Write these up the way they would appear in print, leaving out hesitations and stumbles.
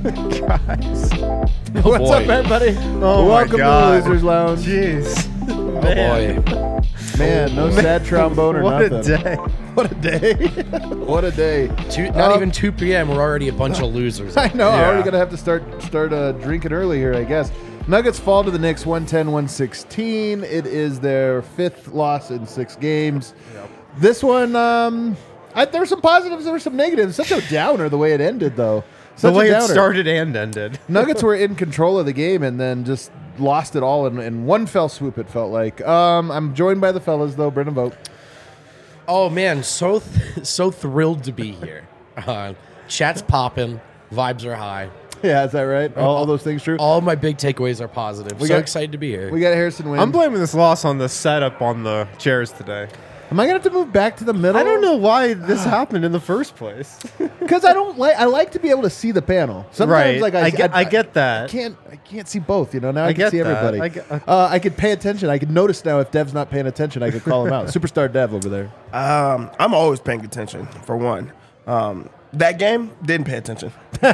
Guys. What's up, everybody? Welcome to the Losers Lounge. Jeez. Oh, boy. Man, no sad trombone or what nothing. A day. What a day. What a day. Not even 2 p.m. We're already a bunch of losers. I know. I'm Yeah. already going to have to start drinking early here, I guess. Nuggets fall to the Knicks 110-116. It is their 5th loss in 6 games. Yep. This one, there were some positives, there were some negatives. Such a downer the way it ended, though. The Such way a it downer. started and ended. Nuggets were in control of the game and then just lost it all in one fell swoop, it felt like. I'm joined by the fellas, though. Brendan Vogt. Oh man, so thrilled to be here. Chat's popping, vibes are high. Yeah, is that right? All those things true? All my big takeaways are positive. We So got- excited to be here. We got Harrison Wind. I'm blaming this loss on the setup on the chairs today. Am I going to have to move back to the middle? I don't know why this happened in the first place. Because I like to be able to see the panel. Sometimes, Right. like I get that. I can't see both. You know, now I I can get see that. everybody. I could pay attention. I could notice now if Dev's not paying attention. I could call him out. Superstar Dev over there. I'm always paying attention, for one. That game, didn't pay attention.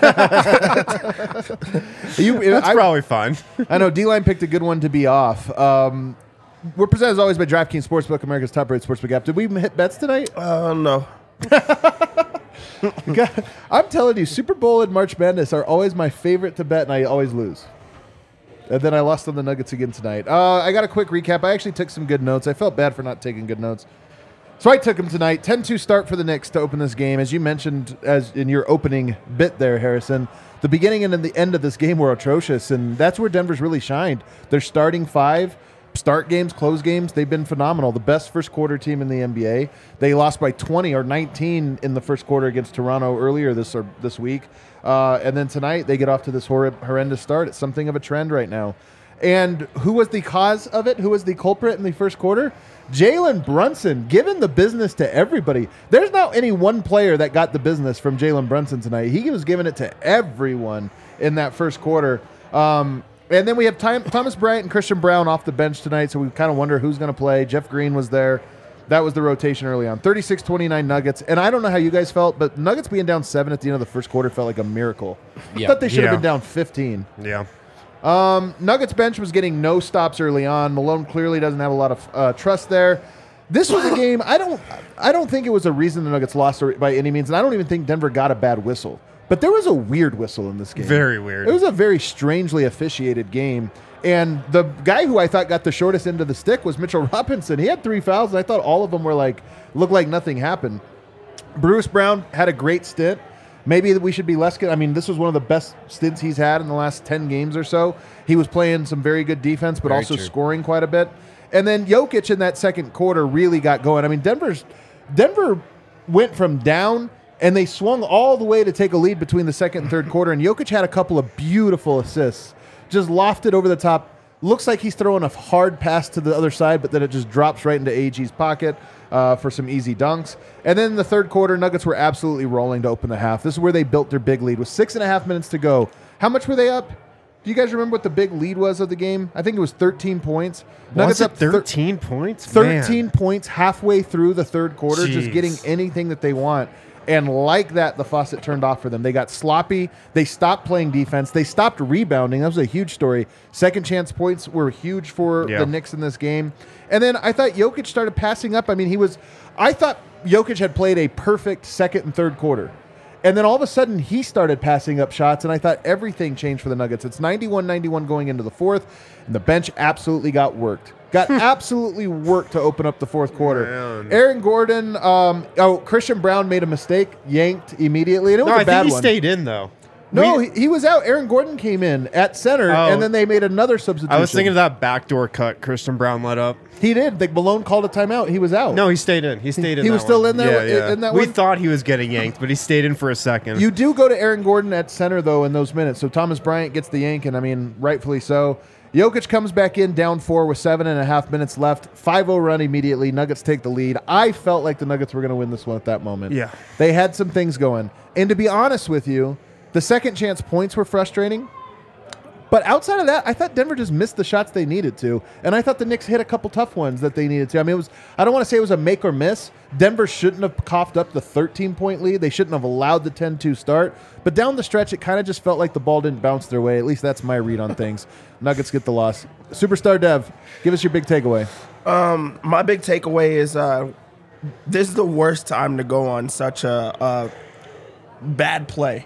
That's probably fine. I know D-Line picked a good one to be off. We're presented as always by DraftKings Sportsbook, America's top-rated sportsbook app. Did we hit bets tonight? No. I'm telling you, Super Bowl and March Madness are always my favorite to bet, and I always lose. And then I lost on the Nuggets again tonight. I got a quick recap. I actually took some good notes. I felt bad for not taking good notes. So I took them tonight. 10-2 start for the Knicks to open this game. As you mentioned as in your opening bit there, Harrison, the beginning and the end of this game were atrocious, and that's where Denver's really shined. Their starting 5, start games, close games, they've been phenomenal. The best first quarter team in the NBA. They lost by 20 or 19 in the first quarter against Toronto earlier this week. And then tonight they get off to this horrendous start. It's something of a trend right now. And who was the cause of it? Who was the culprit in the first quarter? Jalen Brunson, giving the business to everybody. There's not any one player that got the business from Jalen Brunson tonight. He was giving it to everyone in that first quarter. And then we have Thomas Bryant and Christian Brown off the bench tonight, so we kind of wonder who's going to play. Jeff Green was there. That was the rotation early on. 36-29 Nuggets. And I don't know how you guys felt, but Nuggets being down 7 at the end of the first quarter felt like a miracle. I thought they should have been down 15. Yeah. Nuggets bench was getting no stops early on. Malone clearly doesn't have a lot of trust there. This was a game. I don't think it was a reason the Nuggets lost by any means, and I don't even think Denver got a bad whistle. But there was a weird whistle in this game. Very weird. It was a very strangely officiated game. And the guy who I thought got the shortest end of the stick was Mitchell Robinson. He had 3 fouls, and I thought all of them were looked like nothing happened. Bruce Brown had a great stint. Maybe we should be less good. I mean, this was one of the best stints he's had in the last 10 games or so. He was playing some very good defense, but Very also true. scoring quite a bit. And then Jokic in that second quarter really got going. I mean, Denver went from down, and they swung all the way to take a lead between the second and third quarter. And Jokic had a couple of beautiful assists, just lofted over the top. Looks like he's throwing a hard pass to the other side, but then it just drops right into AG's pocket for some easy dunks. And then in the third quarter, Nuggets were absolutely rolling to open the half. This is where they built their big lead with 6.5 minutes to go. How much were they up? Do you guys remember what the big lead was of the game? I think it was 13 points. Was it up 13 points? 13 points halfway through the third quarter, just Jeez. getting anything that they want. And like that, the faucet turned off for them. They got sloppy. They stopped playing defense. They stopped rebounding. That was a huge story. Second chance points were huge for the Knicks in this game. And then I thought Jokic started passing up. I mean, I thought Jokic had played a perfect second and third quarter. And then all of a sudden, he started passing up shots, and I thought everything changed for the Nuggets. It's 91-91 going into the fourth, and the bench absolutely got worked. Got absolutely worked to open up the fourth quarter. Man. Aaron Gordon, Christian Brown made a mistake, yanked immediately, and it was No, a bad I think he one. stayed in, though. No, he was out. Aaron Gordon came in at center, and then they made another substitution. I was thinking of that backdoor cut Christian Brown let up. He did. Malone called a timeout. He was out. No, he stayed in. He stayed in. He that was still one. in there Yeah, in that we one? thought he was getting yanked, but he stayed in for a second. You do go to Aaron Gordon at center, though, in those minutes. So Thomas Bryant gets the yank, and I mean, rightfully so. Jokic comes back in down 4 with 7.5 minutes left. 5-0 run immediately. Nuggets take the lead. I felt like the Nuggets were going to win this one at that moment. Yeah. They had some things going. And to be honest with you, the second chance points were frustrating. But outside of that, I thought Denver just missed the shots they needed to, and I thought the Knicks hit a couple tough ones that they needed to. I mean, I don't want to say it was a make or miss. Denver shouldn't have coughed up the 13-point lead. They shouldn't have allowed the 10-2 start. But down the stretch, it kind of just felt like the ball didn't bounce their way. At least that's my read on things. Nuggets get the loss. Superstar Dev, give us your big takeaway. My big takeaway is this is the worst time to go on such a bad play.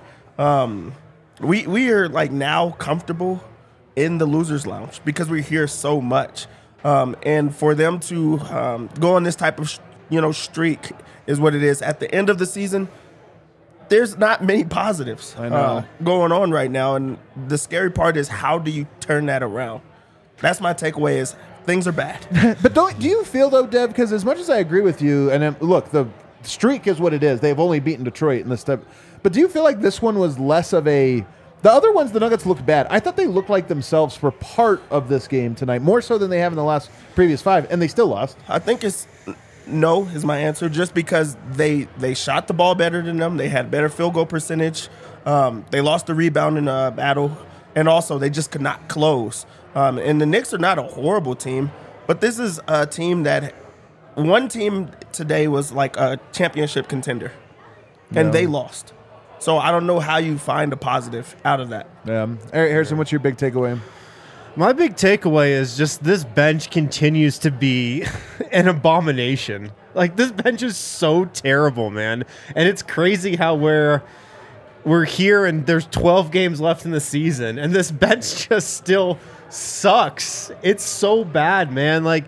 We are like now comfortable in the losers lounge because we hear so much, and for them to go on this type of streak is what it is. At the end of the season, there's not many positives going on right now, and the scary part is how do you turn that around? That's my takeaway is things are bad. But do you feel, though, Dev, because as much as I agree with you, and look, the streak is what it is. They've only beaten Detroit in this step. But do you feel like this one was less of a... The other ones, the Nuggets looked bad. I thought they looked like themselves for part of this game tonight, more so than they have in the previous 5, and they still lost. I think it's no is my answer, just because they shot the ball better than them. They had better field goal percentage. They lost the rebound in a battle, and also they just could not close. And the Knicks are not a horrible team, but this is a team that one team today was like a championship contender, and they lost. So I don't know how you find a positive out of that. Yeah. Eric Harrison, what's your big takeaway? My big takeaway is just this bench continues to be an abomination. Like, this bench is so terrible, man. And it's crazy how we're here and there's 12 games left in the season, and this bench just still sucks. It's so bad, man. Like,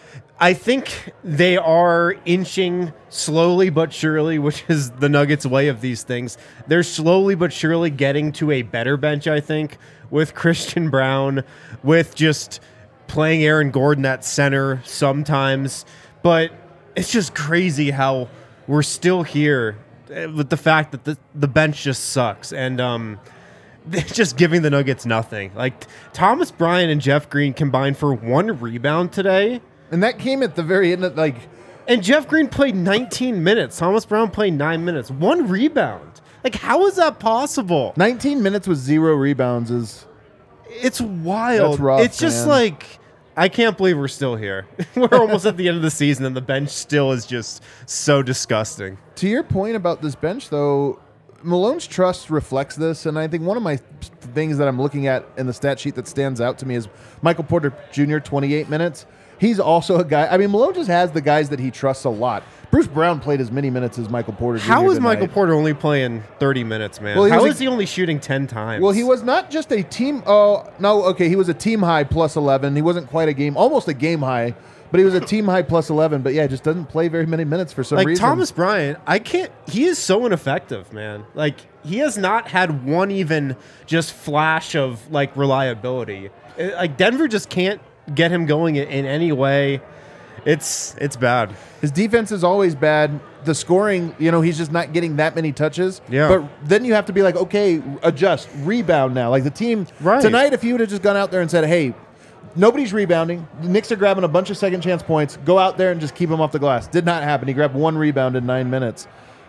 I think they are inching slowly but surely, which is the Nuggets' way of these things. They're slowly but surely getting to a better bench, I think, with Christian Braun, with just playing Aaron Gordon at center sometimes. But it's just crazy how we're still here with the fact that the bench just sucks. And they're just giving the Nuggets nothing. Like, Thomas Bryant and Jeff Green combined for 1 rebound today. And that came at the very end of, And Jeff Green played 19 minutes. Thomas Brown played 9 minutes. 1 rebound. Like, how is that possible? 19 minutes with 0 rebounds is... It's wild. That's rough, it's just man. like, I can't believe we're still here. We're almost at the end of the season, and the bench still is just so disgusting. To your point about this bench, though, Malone's trust reflects this, and I think one of my things that I'm looking at in the stat sheet that stands out to me is Michael Porter Jr., 28 minutes. He's also a guy. I mean, Malone just has the guys that he trusts a lot. Bruce Brown played as many minutes as Michael Porter Jr. How is tonight. Michael Porter only playing 30 minutes, man? Well, How is he only shooting 10 times? Well, he was not just a team. Oh, no, okay. He was a team high plus 11. He wasn't quite a game, almost a game high, but he was a team high plus 11. But yeah, just doesn't play very many minutes for some like reason. Thomas Bryant, he is so ineffective, man. Like, he has not had one even just flash of like reliability. Like, Denver just can't get him going in any way. It's bad. His defense is always bad. The scoring, he's just not getting that many touches. Yeah. But then you have to be like, okay, adjust, rebound now. Like the team tonight, if you would have just gone out there and said, hey, nobody's rebounding. The Knicks are grabbing a bunch of second chance points. Go out there and just keep them off the glass. Did not happen. He grabbed 1 rebound in 9 minutes.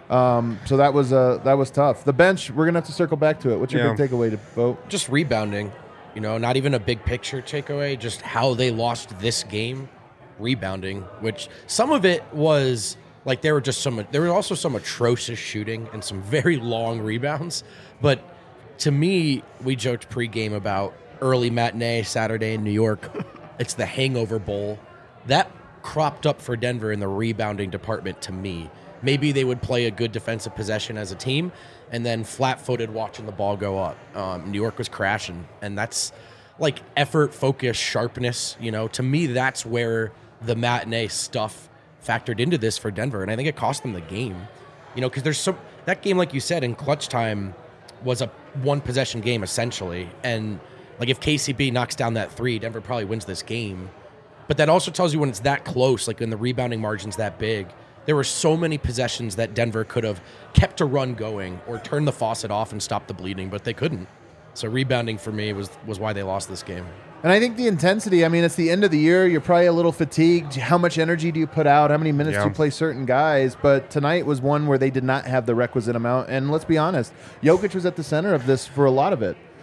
So that was tough. The bench, we're gonna have to circle back to it. What's your big takeaway to vote? Just rebounding. Not even a big picture takeaway, just how they lost this game, rebounding, which some of it was like there was also some atrocious shooting and some very long rebounds. But to me, we joked pregame about early matinee Saturday in New York. It's the Hangover Bowl. That cropped up for Denver in the rebounding department to me. Maybe they would play a good defensive possession as a team and then flat-footed watching the ball go up. New York was crashing, and that's like effort, focus, sharpness. To me, that's where the matinee stuff factored into this for Denver, and I think it cost them the game. Because there's that game, like you said, in clutch time was a one-possession game essentially, and like if KCP knocks down that 3, Denver probably wins this game. But that also tells you when it's that close, like when the rebounding margin's that big. There were so many possessions that Denver could have kept a run going or turned the faucet off and stopped the bleeding, but they couldn't. So rebounding for me was why they lost this game. And I think the intensity, it's the end of the year. You're probably a little fatigued. How much energy do you put out? How many minutes do you play certain guys? But tonight was one where they did not have the requisite amount. And let's be honest, Jokic was at the center of this for a lot of it.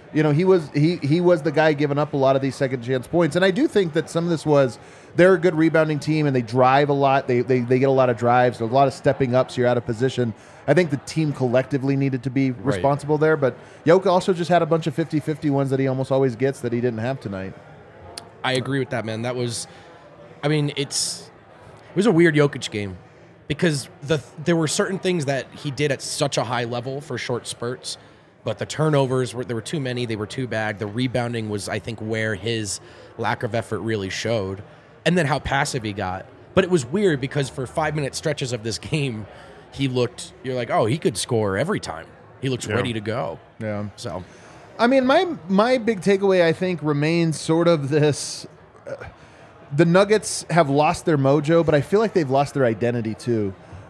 You know, he was the guy giving up a lot of these second chance points. And I do think that some of this was they're a good rebounding team and they drive a lot. They get a lot of drives, a lot of stepping up, so you're out of position. I think the team collectively needed to be responsible there. But Jokic also just had a bunch of 50-50 ones that he almost always gets that he didn't have tonight. I agree with that, man. That was, I mean, it was a weird Jokic game because there were certain things that he did at such a high level for short spurts, but the turnovers, there were too many, they were too bad. The rebounding was, I think, where his lack of effort really showed, and then how passive he got. But it was weird because for 5-minute stretches of this game, you're like, oh, he could score every time. He looks ready to go. Yeah. So, I mean, my big takeaway, I think, remains sort of this. The Nuggets have lost their mojo, but I feel like they've lost their identity, too.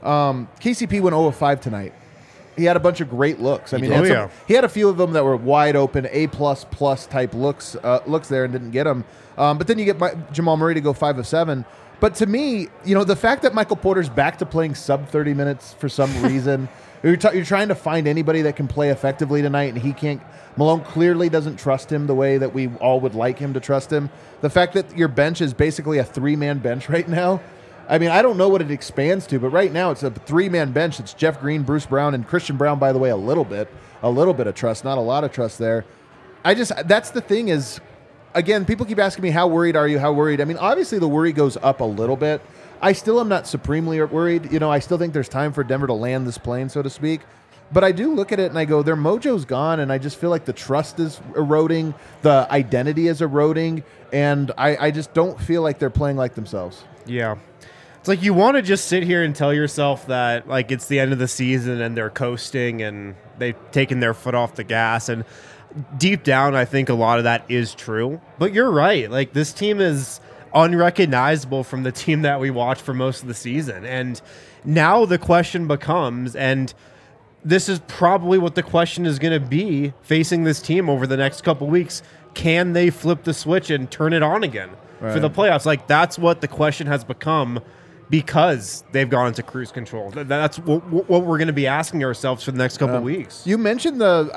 KCP went 0 of 5 tonight. He had a bunch of great looks. I mean, he had a few of them that were wide open, A++ type looks there and didn't get them. But then you get Jamal Murray to go 5 of 7. But to me, you know, the fact that Michael Porter's back to playing sub 30 minutes for some reason, you're trying to find anybody that can play effectively tonight, and he can't. Malone clearly doesn't trust him the way that we all would like him to trust him. The fact that your bench is basically a 3-man bench right now. I mean, I don't know what it expands to, but right now it's a 3-man bench. It's Jeff Green, Bruce Brown, and Christian Brown, by the way, a little bit of trust, not a lot of trust there. That's the thing is, again, people keep asking me, how worried are you? How worried? I mean, obviously the worry goes up a little bit. I still am not supremely worried. You know, I still think there's time for Denver to land this plane, so to speak. But I do look at it and I go, their mojo's gone, and I just feel like the trust is eroding, the identity is eroding, and I just don't feel like they're playing like themselves. Yeah. It's like you want to just sit here and tell yourself that like it's the end of the season and they're coasting and they've taken their foot off the gas. And deep down, I think a lot of that is true. But you're right. Like this team is unrecognizable from the team that we watched for most of the season. And now the question becomes, and this is probably what the question is going to be facing this team over the next couple weeks, can they flip the switch and turn it on again for the playoffs? Like that's what the question has become because they've gone into cruise control. That's what we're going to be asking ourselves for the next couple weeks. You mentioned the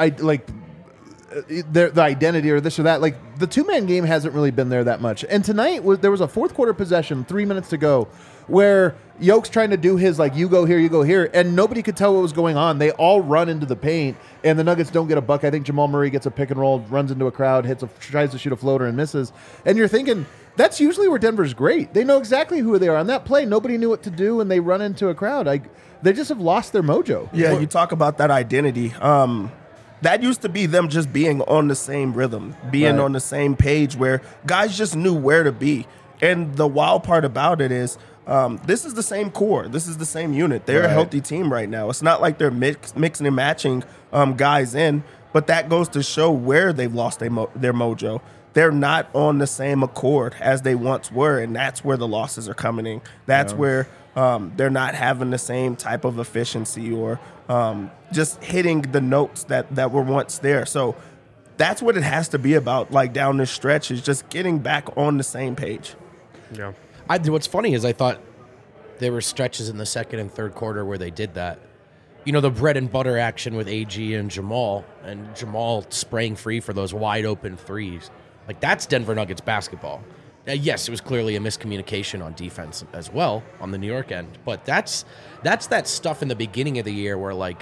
identity or this or that. Like the 2-man game hasn't really been there that much. And tonight there was a fourth quarter possession, 3 minutes to go, where Yoke's trying to do his like you go here, and nobody could tell what was going on. They all run into the paint, and the Nuggets don't get a buck. I think Jamal Murray gets a pick and roll, runs into a crowd, tries to shoot a floater and misses. And you're thinking that's usually where Denver's great. They know exactly who they are. On that play, nobody knew what to do, and they run into a crowd. They just have lost their mojo. Yeah, you talk about that identity. That used to be them just being on the same rhythm, being on the same page where guys just knew where to be. And the wild part about it is this is the same core. This is the same unit. They're a healthy team right now. It's not like they're mixing and matching guys in, but that goes to show where they've lost their mojo. They're not on the same accord as they once were, and that's where the losses are coming in. That's where they're not having the same type of efficiency or just hitting the notes that were once there. So that's what it has to be about, like down this stretch, is just getting back on the same page. Yeah. What's funny is I thought there were stretches in the second and third quarter where they did that. You know, the bread and butter action with AG and Jamal spraying free for those wide open threes. Like, that's Denver Nuggets basketball. Yes, it was clearly a miscommunication on defense as well on the New York end. But that's that stuff in the beginning of the year where, like,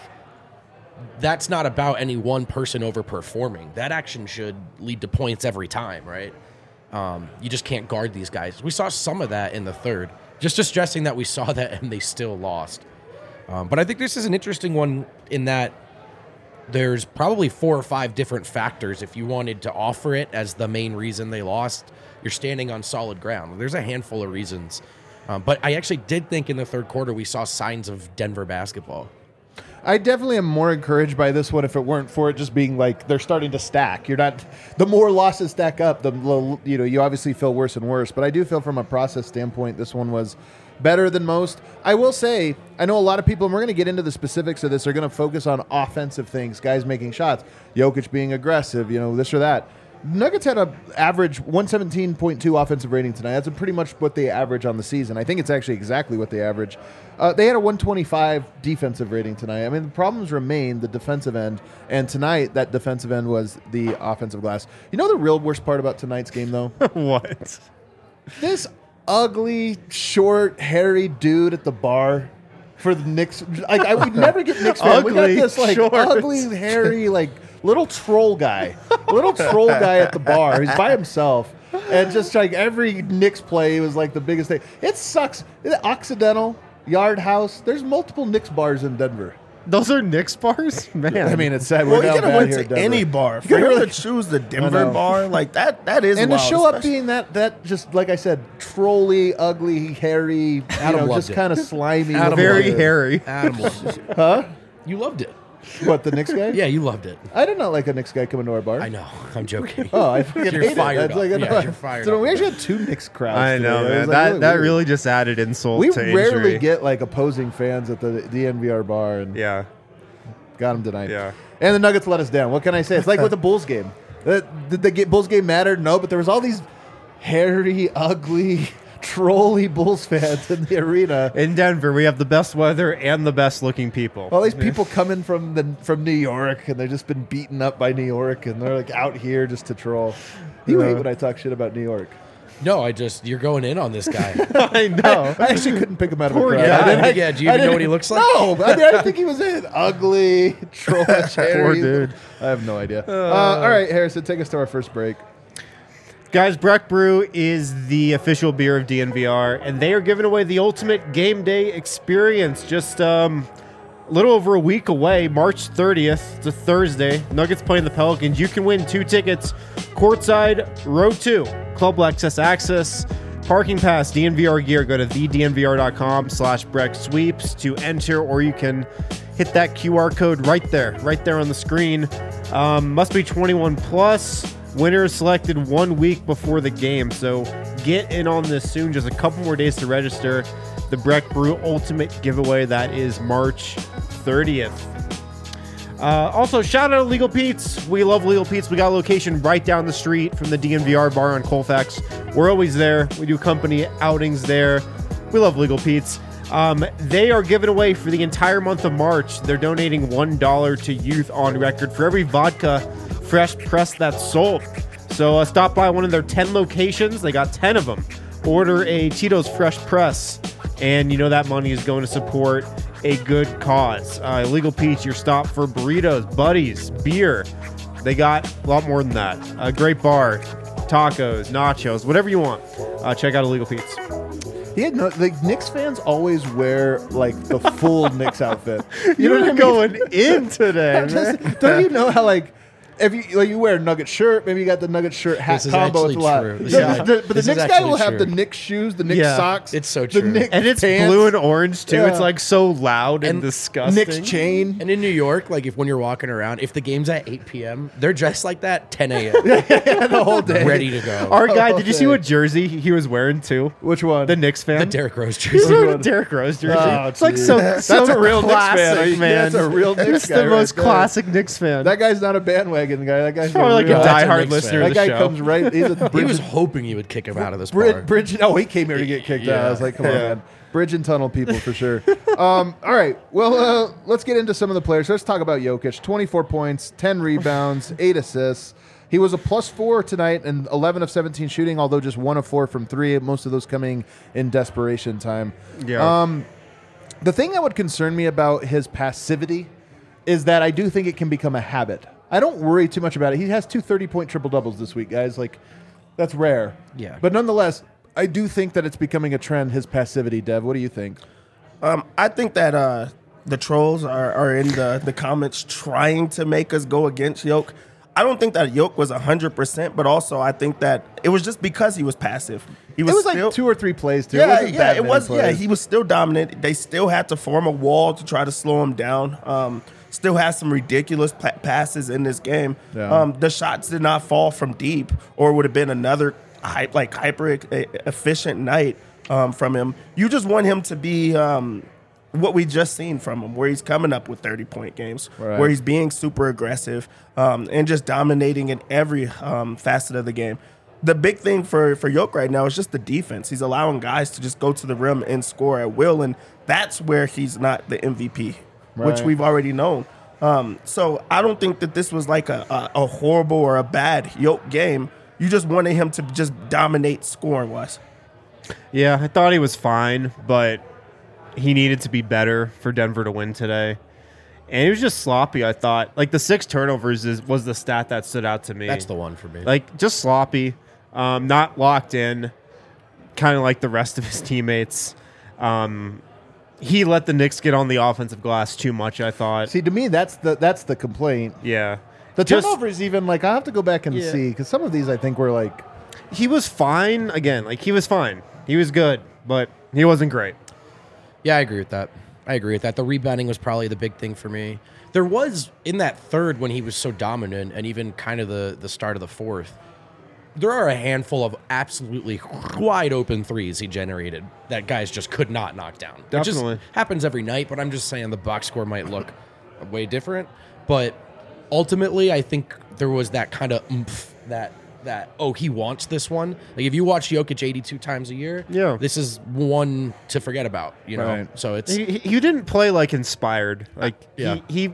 that's not about any one person overperforming. That action should lead to points every time, right? You just can't guard these guys. We saw some of that in the third. Just distressing that we saw that and they still lost. But I think this is an interesting one in that there's probably 4 or 5 different factors. If you wanted to offer it as the main reason they lost, you're standing on solid ground. There's a handful of reasons. But I actually did think in the third quarter we saw signs of Denver basketball. I definitely am more encouraged by this one if it weren't for it just being like they're starting to stack. You're not, the more losses stack up, you obviously feel worse and worse. But I do feel from a process standpoint, this one was better than most. I will say, I know a lot of people, and we're going to get into the specifics of this, are going to focus on offensive things, guys making shots, Jokic being aggressive, this or that. Nuggets had a average 117.2 offensive rating tonight. That's pretty much what they average on the season. I think it's actually exactly what they average. They had a 125 defensive rating tonight. I mean, the problems remain the defensive end, and tonight that defensive end was the offensive glass. You know the real worst part about tonight's game, though? What? This ugly, short, hairy dude at the bar for the Knicks. I would never get Knicks fans. We got Ugly, this short. ugly, hairy, little troll guy. Little troll guy at the bar. He's by himself. And just every Knicks play was the biggest thing. It sucks. Occidental, Yard House. There's multiple Knicks bars in Denver. Those are Knicks bars? Man. I mean, it's sad. Well, We're you down could have bad went here to in Denver. any bar. For coulda him really- to choose the I Denver know. bar, that is And to wild, show up especially- being that just like I said, trolly, ugly, hairy, Adam loved just it. kind of slimy. Adam looking Very dude. hairy. Adam loved it. Huh? You loved it. What, the Knicks guy? Yeah, you loved it. I did not like a Knicks guy coming to our bar. I know. I'm joking. Oh, I fucking You're hate it. fired That's up. like, Yeah, you're fired so up. we actually had two Knicks crowds. I know, today. It man. was, That weird. really just added insult We to rarely injury. get opposing fans at the DNVR bar, and Yeah. got them tonight. Yeah. And the Nuggets let us down. What can I say? It's like with the Bulls game. Did the Bulls game matter? No, but there was all these hairy, ugly, trolly Bulls fans in the arena. In Denver, we have the best weather and the best looking people. All these people coming from New York, and they've just been beaten up by New York, and they're out here just to troll. You hate when I talk shit about New York. No, you're going in on this guy. I know. I actually couldn't pick him out of a Poor crowd. guy. Yeah, do you even know what he looks like? No, I didn't think he was in. Ugly, trollish, hairy. Poor dude. I have no idea. All right, Harrison, take us to our first break. Guys, Breck Brew is the official beer of DNVR, and they are giving away the ultimate game day experience just a little over a week away, March 30th. It's a Thursday. Nuggets playing the Pelicans. You can win 2 tickets, courtside, row 2, club access, parking pass, DNVR gear. Go to thednvr.com/Breck Sweeps to enter, or you can hit that QR code right there on the screen. Must be 21 plus. Winner is selected 1 week before the game, so get in on this soon. Just a couple more days to register. The Breck Brew Ultimate Giveaway, that is March 30th. Also, shout out to Legal Pete's. We love Legal Pete's. We got a location right down the street from the DNVR bar on Colfax. We're always there. We do company outings there. We love Legal Pete's. They are giving away for the entire month of March. They're donating $1 to Youth on Record for every vodka fresh press that's sold. So stop by one of their 10 locations. They got 10 of them. Order a Tito's Fresh Press, and you know that money is going to support a good cause. Legal Pete's, your stop for burritos, buddies, beer. They got a lot more than that. A great bar, tacos, nachos, whatever you want. Check out Illegal Pete's. Yeah, no, Knicks fans always wear the full Knicks outfit. You know what I mean? Going in today, man. Don't you know how if you wear a Nugget shirt, maybe you got the Nugget shirt hat This is combo. It's actually a lot. true. This is But the this is Knicks guy actually will have true. the Knicks shoes, the Knicks Yeah, socks. it's so the true. Knicks And it's pants, blue and orange too. Yeah. It's so loud and And disgusting. Knicks chain. And in New York, when you're walking around, if the game's at 8 p.m., they're dressed like that 10 a.m. the whole day. ready to go. Our guy, did you see Okay. what jersey he was wearing too? Which one? The Knicks fan. The Derrick Rose He's jersey. wearing a Derrick Rose jersey. Oh, it's geez. That's so a real Knicks fan. classic, man. That's a real Knicks That's guy the most right there. classic Knicks fan. That guy's not a bandwagon guy. That guy's Probably like real, a that's a diehard Knicks listener fan. of That the guy show. comes right. He's a He was hoping you would kick him out of this bar. Bridge. Oh, he came here to get kicked out. I was like, come on, Yeah. man. Bridge and tunnel people for sure. All right. Well, let's get into some of the players. Let's talk about Jokic. 24 points, 10 rebounds, 8 assists. He was a +4 tonight and 11 of 17 shooting, although just 1 of 4 from 3, most of those coming in desperation time. Yeah. The thing that would concern me about his passivity is that I do think it can become a habit. I don't worry too much about it. He has 2 30-point triple-doubles this week, guys. That's rare. Yeah. But nonetheless, I do think that it's becoming a trend, his passivity. Dev, what do you think? I think that the trolls are in the comments trying to make us go against Yoke. I don't think that Yoke was 100%, but also I think that it was just because he was passive. He It was still, like 2 or 3 plays, too. Yeah, it wasn't yeah, that it many was. Yeah, plays. he was still dominant. They still had to form a wall to try to slow him down. Still has some ridiculous passes in this game. Yeah. The shots did not fall from deep, or it would have been another hyper efficient night from him. You just want him to be what we just seen from him, where he's coming up with 30-point games, Right. where he's being super aggressive and just dominating in every facet of the game. The big thing for Yoke right now is just the defense. He's allowing guys to just go to the rim and score at will, and that's where he's not the MVP, which Right. we've already known. So I don't think that this was like a horrible or a bad Yoke game. You just wanted him to just dominate scoring-wise. Yeah, I thought he was fine, but he needed to be better for Denver to win today. And he was just sloppy, I thought. Like, the 6 turnovers was the stat that stood out to me. That's the one for me. Like, just sloppy, not locked in, kind of like the rest of his teammates. He let the Knicks get on the offensive glass too much, I thought. See, to me, that's the complaint. Yeah. The Just- turnovers, even like I have to go back and Yeah. see because some of these I think were like He was fine. Again, like, he was fine. He was good, but he wasn't great. Yeah, I agree with that. The rebounding was probably the big thing for me. There was, in that third when he was so dominant, and even kind of the start of the fourth, there are a handful of absolutely wide open threes he generated that guys just could not knock down. It Definitely. just happens every night, but I'm just saying the box score might look way different. But ultimately, I think there was that kind of oomph that oh, he wants this one. Like, if you watch Jokic 82 times a year, Yeah. this is one to forget about, you know? Right. So it's... He didn't play like inspired. Like, Yeah. he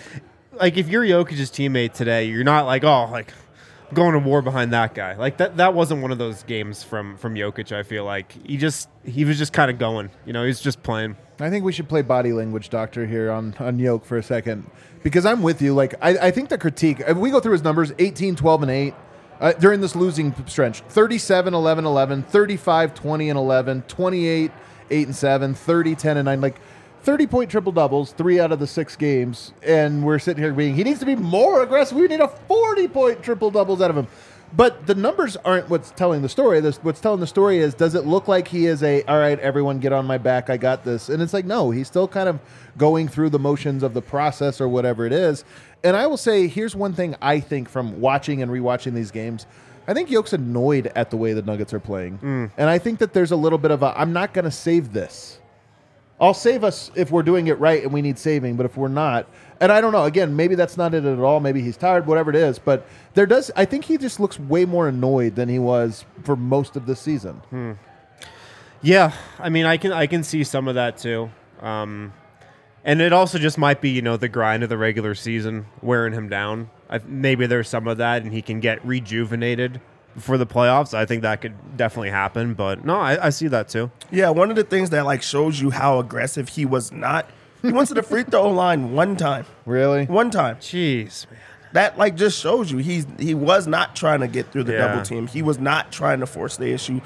like, if you're Jokic's teammate today, you're not like, oh, like, I'm going to war behind that guy. Like, that wasn't one of those games from Jokic. I feel like he was just kind of going. You know, he's just playing. I think we should play body language doctor here on Yoke for a second because I'm with you. Like I think the critique, if we go through his numbers, 18, 12, and 8 during this losing stretch, 37, 11, 11, 35, 20, and 11, 28, 8, and 7, 30, 10, and 9, like 30-point triple-doubles, 3 out of the 6 games, and we're sitting here being, he needs to be more aggressive. We need a 40-point triple-doubles out of him. But the numbers aren't what's telling the story. What's telling the story is, does it look like he is all right, everyone get on my back, I got this? And it's like, no, he's still kind of going through the motions of the process or whatever it is. And I will say, here's one thing I think from watching and rewatching these games. I think Yoke's annoyed at the way the Nuggets are playing. And I think that there's a little bit of I'm not going to save this. I'll save us if we're doing it right and we need saving, but if we're not, and I don't know, again, maybe that's not it at all. Maybe he's tired, whatever it is, but I think he just looks way more annoyed than he was for most of the season. Yeah, I mean, I can see some of that too. And it also just might be, the grind of the regular season wearing him down. Maybe there's some of that, and he can get rejuvenated for the playoffs. I think that could definitely happen. But no, I see that too. Yeah, one of the things that like shows you how aggressive he was not. He went to the free throw line one time. Really? One time. Jeez, man. That like just shows you he was not trying to get through the Yeah. double team. He was not trying to force the issue.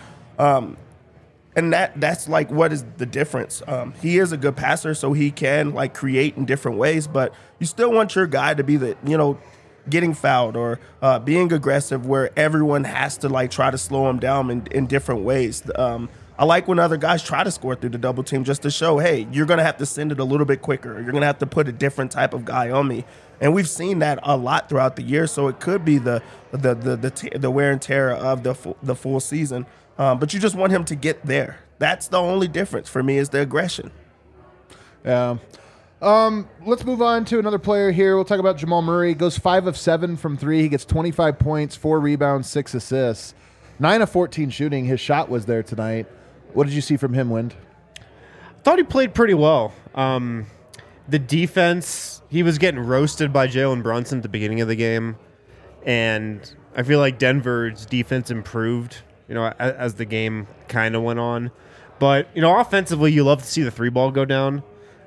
And that's like what is the difference. He is a good passer, so he can like create in different ways, but you still want your guy to be the, getting fouled or being aggressive where everyone has to like try to slow him down in different ways. I like when other guys try to score through the double team just to show, hey, you're going to have to send it a little bit quicker. You're going to have to put a different type of guy on me. And we've seen that a lot throughout the year, so it could be the wear and tear of the full season. But you just want him to get there. That's the only difference for me is the aggression. Yeah. Let's move on to another player here. We'll talk about Jamal Murray. Goes 5 of 7 from 3. He gets 25 points, 4 rebounds, 6 assists, 9 of 14 shooting. His shot was there tonight. What did you see from him, Wind? Thought he played pretty well. The defense, he was getting roasted by Jalen Brunson at the beginning of the game, and I feel like Denver's defense improved, as the game kind of went on. But, offensively, you love to see the 3-ball go down.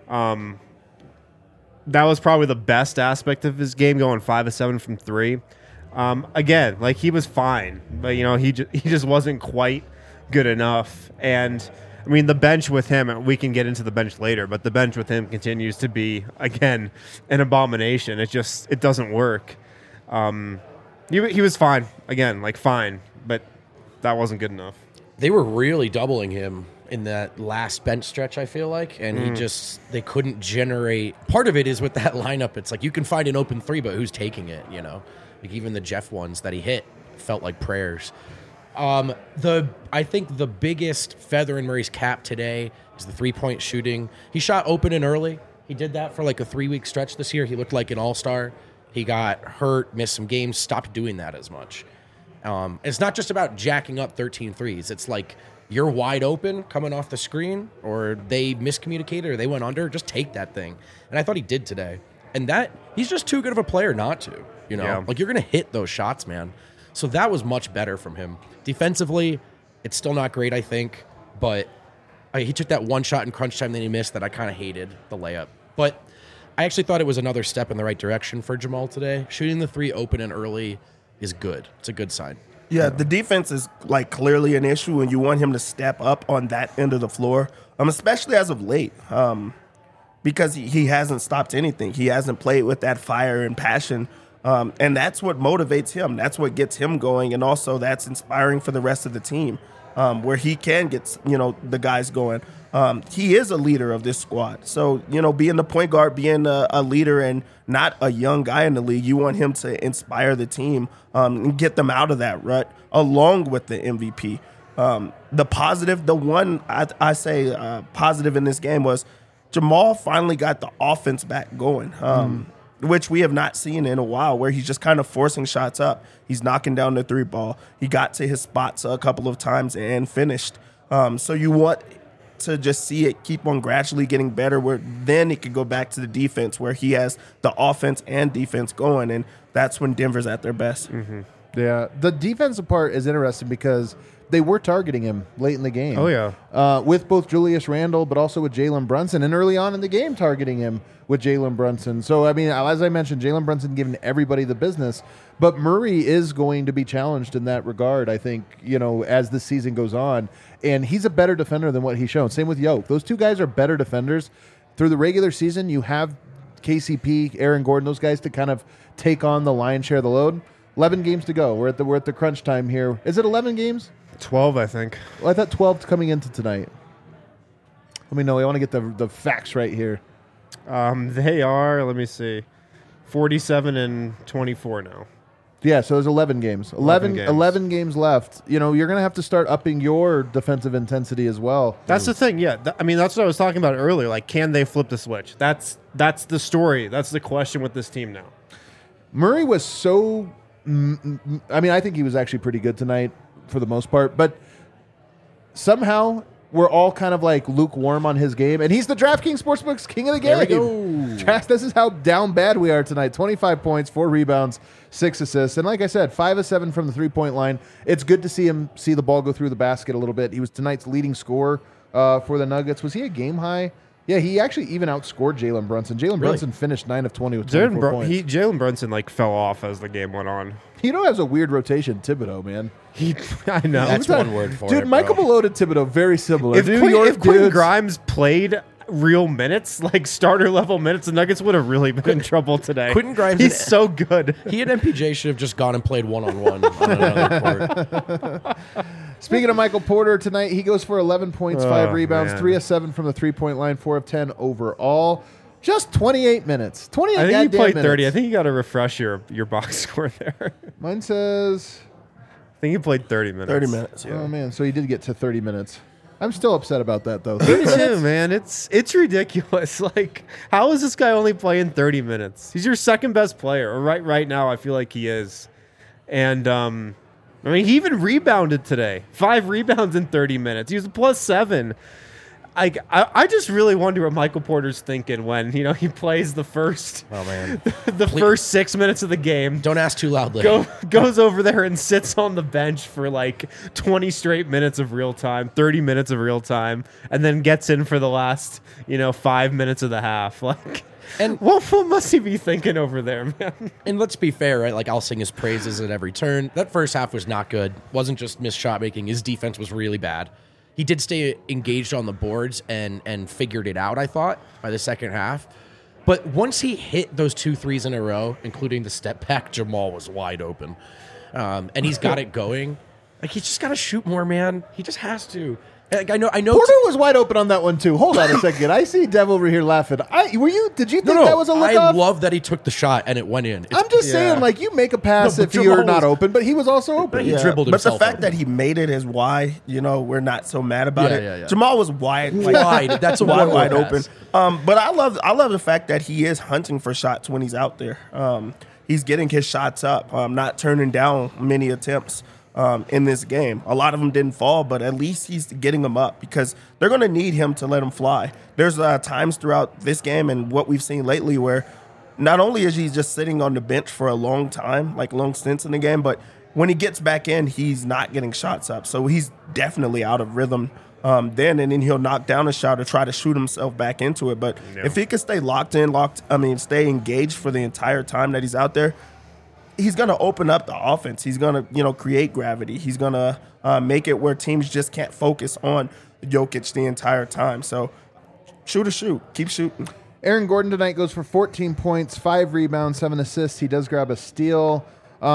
That was probably the best aspect of his game, going 5 of 7 from 3. Again, like, he was fine, but, he just wasn't quite good enough. And I mean, the bench with him, we can get into the bench later, but the bench with him continues to be, again, an abomination. It doesn't work. He was fine, again, like fine, but that wasn't good enough. They were really doubling him in that last bench stretch, I feel like, and they couldn't generate. Part of it is with that lineup, it's like you can find an open 3, but who's taking it, Like even the Jeff ones that he hit felt like prayers. I think the biggest feather in Murray's cap today is the 3-point shooting. He shot open and early. He did that for like a 3-week stretch this year. He looked like an all-star. He got hurt, missed some games, stopped doing that as much. It's not just about jacking up 13 threes. It's like you're wide open coming off the screen, or they miscommunicated, or they went under. Just take that thing. And I thought he did today. And that he's just too good of a player not to. You know, Yeah. like you're going to hit those shots, man. So that was much better from him. Defensively, it's still not great, I think, but he took that one shot in crunch time that he missed that I kind of hated, the layup. But I actually thought it was another step in the right direction for Jamal today. Shooting the 3 open and early is good. It's a good sign. Yeah, the defense is like clearly an issue, and you want him to step up on that end of the floor, especially as of late, because he hasn't stopped anything. He hasn't played with that fire and passion, and that's what motivates him. That's what gets him going, and also that's inspiring for the rest of the team, where he can get the guys going. He is a leader of this squad, so being the point guard, being a leader, and not a young guy in the league, you want him to inspire the team and get them out of that rut, along with the MVP. The positive, the one I say positive in this game was Jamal finally got the offense back going, which we have not seen in a while, where he's just kind of forcing shots up. He's knocking down the 3 ball. He got to his spots a couple of times and finished. So you want to just see it keep on gradually getting better, where then it could go back to the defense, where he has the offense and defense going, and that's when Denver's at their best. Mm-hmm. Yeah, the defensive part is interesting because they were targeting him late in the game. Oh, yeah. With both Julius Randle, but also with Jalen Brunson, and early on in the game targeting him with Jalen Brunson. So, I mean, as I mentioned, Jalen Brunson giving everybody the business, but Murray is going to be challenged in that regard, I think, as the season goes on. And he's a better defender than what he's shown. Same with Yoke. Those two guys are better defenders. Through the regular season, you have KCP, Aaron Gordon, those guys to kind of take on the lion's share of the load. 11 games to go. We're at the crunch time here. Is it 11 games? 12, I think. Well, I thought 12 coming into tonight. Let me know. I want to get the facts right here. They are, let me see, 47 and 24 now. Yeah, so there's 11 games. 11 games left. You're going to have to start upping your defensive intensity as well. That's the thing, yeah. I mean, that's what I was talking about earlier. Like, can they flip the switch? That's the story. That's the question with this team now. Murray was so... I mean, I think he was actually pretty good tonight for the most part, but somehow we're all kind of like lukewarm on his game, and he's the DraftKings Sportsbook's king of the game. There we go. This is how down bad we are tonight. 25 points, 4 rebounds, 6 assists, and like I said, 5 of 7 from the 3-point line. It's good to see him see the ball go through the basket a little bit. He was tonight's leading scorer for the Nuggets. Was he a game high? Yeah, he actually even outscored Jalen Brunson. Brunson finished 9 of 20 with 24 points. Jalen Brunson fell off as the game went on. Has a weird rotation, Thibodeau, man. I know. That's one word for it, dude. Michael Malone and Thibodeau, very similar. If Quentin Grimes played real minutes, like starter level minutes, the Nuggets would have really been in trouble today. Quentin Grimes, he's so good. He and MPJ should have just gone and played one-on-one on another court. Speaking of Michael Porter tonight, he goes for 11 points, 5 rebounds, man. 3 of 7 from the 3-point line, 4 of 10 overall. Just 28 minutes. 28 I think he played 30. minutes. I think you got to refresh your box score there. Mine says... I think he played 30 minutes. 30 minutes, yeah. Oh, man. So he did get to 30 minutes. I'm still upset about that, though. Me too, man. It's ridiculous. Like, how is this guy only playing 30 minutes? He's your second best player. Or right now, I feel like he is. And, I mean, he even rebounded today. 5 rebounds in 30 minutes. He was a +7. I just really wonder what Michael Porter's thinking when he plays the first first 6 minutes of the game. Don't ask too loudly. Goes over there and sits on the bench for like 20 straight minutes of real time, 30 minutes of real time, and then gets in for the last 5 minutes of the half. Like, and what must he be thinking over there, man? And let's be fair, right? Like, I'll sing his praises at every turn. That first half was not good. Wasn't just missed shot making. His defense was really bad. He did stay engaged on the boards and figured it out, I thought, by the second half. But once he hit those 2 threes in a row, including the step back, Jamal was wide open. And he's got it going. Like, he's just got to shoot more, man. He just has to. Like, I know. Porter was wide open on that one too. Hold on a second. I see Dev over here laughing. Did you think that was a look I off? love that he took the shot and it went in. I'm just saying, like, you make a pass No, if but you're Jamal not was- open, but he was also open. He dribbled But the himself fact open. that he made it is why, we're not so mad about Yeah, it. yeah, yeah. Jamal was wide. Wide. That's a wide, wide open. pass. But I love the fact that he is hunting for shots when he's out there. He's getting his shots up, not turning down many attempts in this game. A lot of them didn't fall, but at least he's getting them up because they're going to need him to let him fly. There's times throughout this game and what we've seen lately where not only is he just sitting on the bench for a long time, like long stints in the game, but when he gets back in, he's not getting shots up. So he's definitely out of rhythm then, and then he'll knock down a shot or try to shoot himself back into it. But if he could stay stay engaged for the entire time that he's out there, he's going to open up the offense. He's going to, create gravity. He's going to make it where teams just can't focus on Jokic the entire time. So shoot. Keep shooting. Aaron Gordon tonight goes for 14 points, 5 rebounds, 7 assists. He does grab a steal,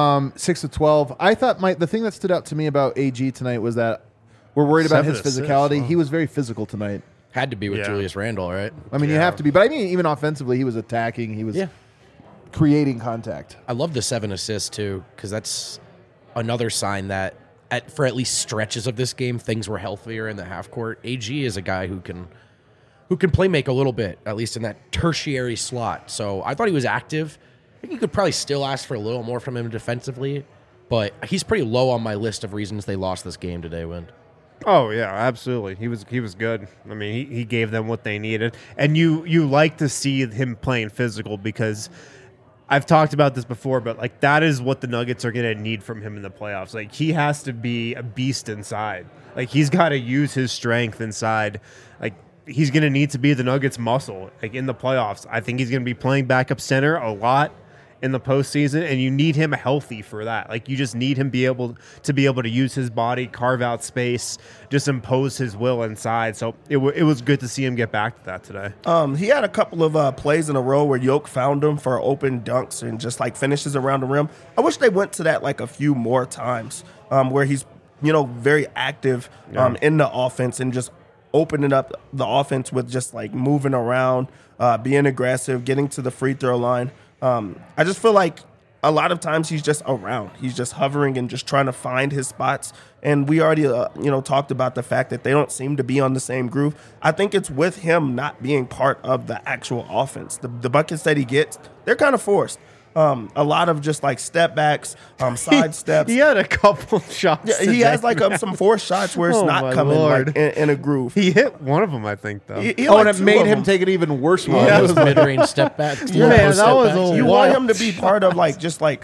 6 of 12. I thought the thing that stood out to me about AG tonight was that we're worried about 7 his assists, physicality. wow. He was very physical tonight. Had to be with Yeah. Julius Randle, right? I mean, you have to be. But I mean, even offensively, he was attacking. He was creating contact. I love the 7 assists too, because that's another sign that for at least stretches of this game, things were healthier in the half court. AG is a guy who can play make a little bit, at least in that tertiary slot. So I thought he was active. I think you could probably still ask for a little more from him defensively, but he's pretty low on my list of reasons they lost this game today, Wind. Oh yeah, absolutely. He was good. I mean, he gave them what they needed, and you like to see him playing physical because I've talked about this before, but like that is what the Nuggets are going to need from him in the playoffs. Like he has to be a beast inside. Like he's got to use his strength inside. Like he's going to need to be the Nuggets muscle like in the playoffs. I think he's going to be playing backup center a lot in the postseason, and you need him healthy for that. Like you just need him be able to use his body, carve out space, just impose his will inside. So it was good to see him get back to that today. He had a couple of plays in a row where Yoke found him for open dunks and just like finishes around the rim. I wish they went to that like a few more times where he's very active in the offense and just opening up the offense with just like moving around, being aggressive, getting to the free throw line. I just feel like a lot of times he's just around. He's just hovering and just trying to find his spots. And we already, talked about the fact that they don't seem to be on the same groove. I think it's with him not being part of the actual offense. The buckets that he gets, they're kind of forced. A lot of just like step backs, side steps. He had a couple shots. Yeah, he today, has like man. some forced shots where it's Oh, not my coming Lord. like in a groove. He hit one of them, I think, though. He Oh, like and it two made of him them. take an even worse one. Yeah. It was like- Mid-range step back. Man, that was a You wild want him to be part of like just like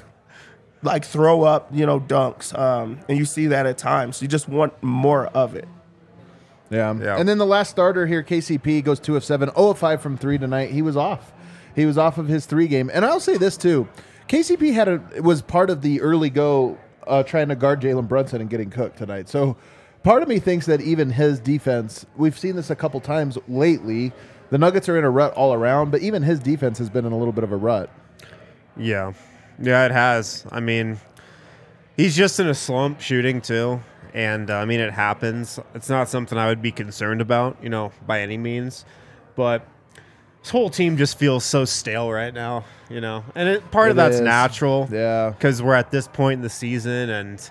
throw up, dunks. And you see that at times. You just want more of it. Yeah. Yeah. And then the last starter here, KCP, goes 2 of 7, 0 of 5 from 3 tonight. He was off. He was off of his 3 game. And I'll say this too. KCP was part of the early go trying to guard Jalen Brunson and getting cooked tonight. So part of me thinks that even his defense, we've seen this a couple times lately. The Nuggets are in a rut all around, but even his defense has been in a little bit of a rut. Yeah, it has. I mean, he's just in a slump shooting too, and I mean it happens. It's not something I would be concerned about, by any means. But this whole team just feels so stale right now, and part of It that's is. natural, Yeah. because we're at this point in the season, and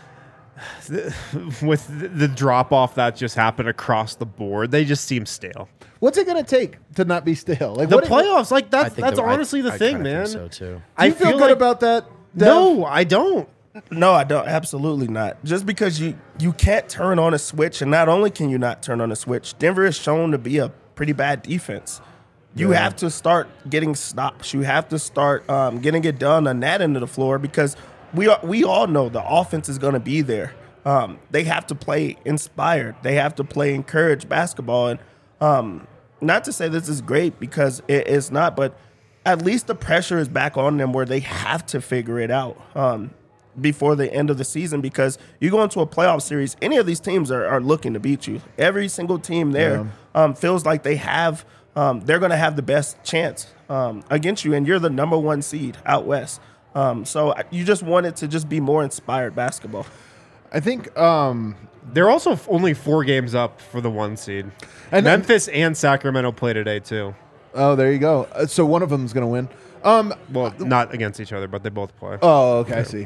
with the drop off that just happened across the board, they just seem stale. What's it going to take to not be stale? Like The what- playoffs, like I that's think honestly the I thing, kinda man. think so too. Do you feel good about that? Dev? No, I don't. No, I don't. Absolutely not. Just because you can't turn on a switch, and not only can you not turn on a switch, Denver is shown to be a pretty bad defense. You have to start getting stops. You have to start getting it done on that end of the floor because we all know the offense is going to be there. They have to play inspired. They have to play encouraged basketball. And not to say this is great because it's not, but at least the pressure is back on them where they have to figure it out before the end of the season because you go into a playoff series, any of these teams are looking to beat you. Every single team there feels like they have they're going to have the best chance against you, and you're the number 1 seed out west. So you just want it to just be more inspired basketball. I think They're also only 4 games up for the 1 seed. And Memphis and Sacramento play today too. Oh, there you go. So one of them is going to win. Well, not against each other, but they both play. Oh, okay, I see.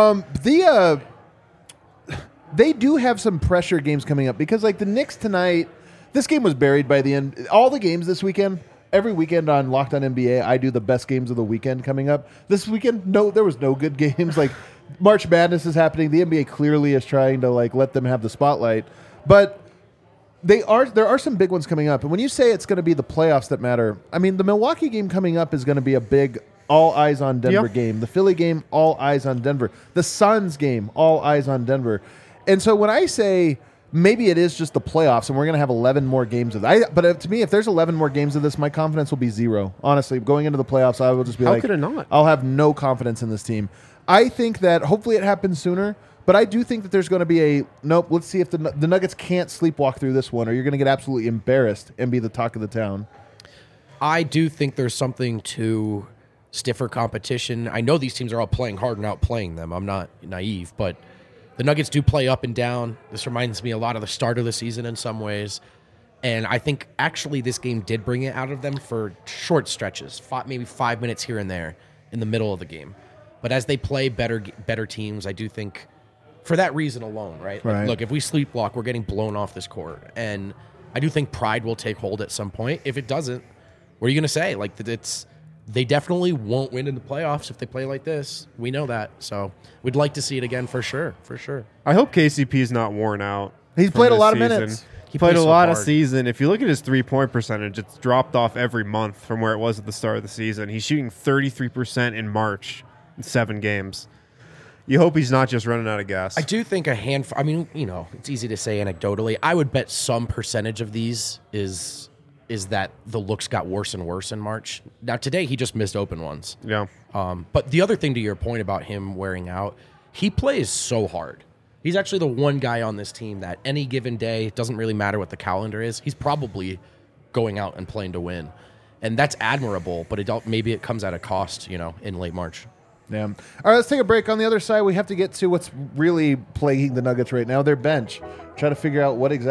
They do have some pressure games coming up because, like, the Knicks tonight, this game was buried by the end. All the games this weekend, every weekend on Locked On NBA, I do the best games of the weekend coming up. This weekend, no, there was no good games. Like, March Madness is happening. The NBA clearly is trying to, like, let them have the spotlight. But there are some big ones coming up. And when you say it's going to be the playoffs that matter, I mean, the Milwaukee game coming up is going to be a big all eyes on Denver game. The Philly game, all eyes on Denver. The Suns game, all eyes on Denver. And so when I say maybe it is just the playoffs and we're going to have 11 more games of that, but to me, if there's 11 more games of this, my confidence will be 0. Honestly, going into the playoffs, I will just be How could it not? I'll have no confidence in this team. I think that hopefully it happens sooner, but I do think that there's going to be nope, let's see if the Nuggets can't sleepwalk through this one or you're going to get absolutely embarrassed and be the talk of the town. I do think there's something to stiffer competition. I know these teams are all playing hard and outplaying them. I'm not naive, but the Nuggets do play up and down. This reminds me a lot of the start of the season in some ways. And I think actually this game did bring it out of them for short stretches, maybe 5 minutes here and there in the middle of the game. But as they play better teams, I do think for that reason alone, right? Like, look, if we sleepwalk, we're getting blown off this court. And I do think pride will take hold at some point. If it doesn't, what are you going to say? Like, they definitely won't win in the playoffs if they play like this. We know that. So we'd like to see it again for sure. For sure. I hope KCP's not worn out. He's played a lot of minutes. He played a lot of season. If you look at his 3-point percentage, it's dropped off every month from where it was at the start of the season. He's shooting 33% in March in 7 games. You hope he's not just running out of gas. I do think a handful. I mean, it's easy to say anecdotally. I would bet some percentage of these is that the looks got worse and worse in March. Now, today, he just missed open ones. Yeah. But the other thing to your point about him wearing out, he plays so hard. He's actually the one guy on this team that any given day, it doesn't really matter what the calendar is, he's probably going out and playing to win. And that's admirable, but maybe it comes at a cost, in late March. Yeah. All right, let's take a break. On the other side, we have to get to what's really plaguing the Nuggets right now, their bench. Try to figure out what's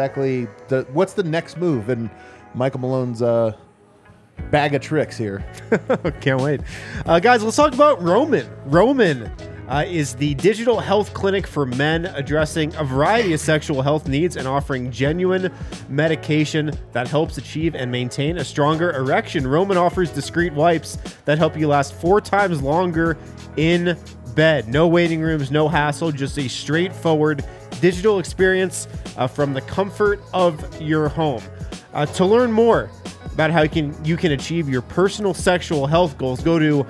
the next move in Michael Malone's bag of tricks here. Can't wait. Guys, let's talk about Roman. Roman is the digital health clinic for men addressing a variety of sexual health needs and offering genuine medication that helps achieve and maintain a stronger erection. Roman offers discreet wipes that help you last 4 times longer in bed. No waiting rooms, no hassle, just a straightforward digital experience from the comfort of your home. To learn more about how you can achieve your personal sexual health goals, go to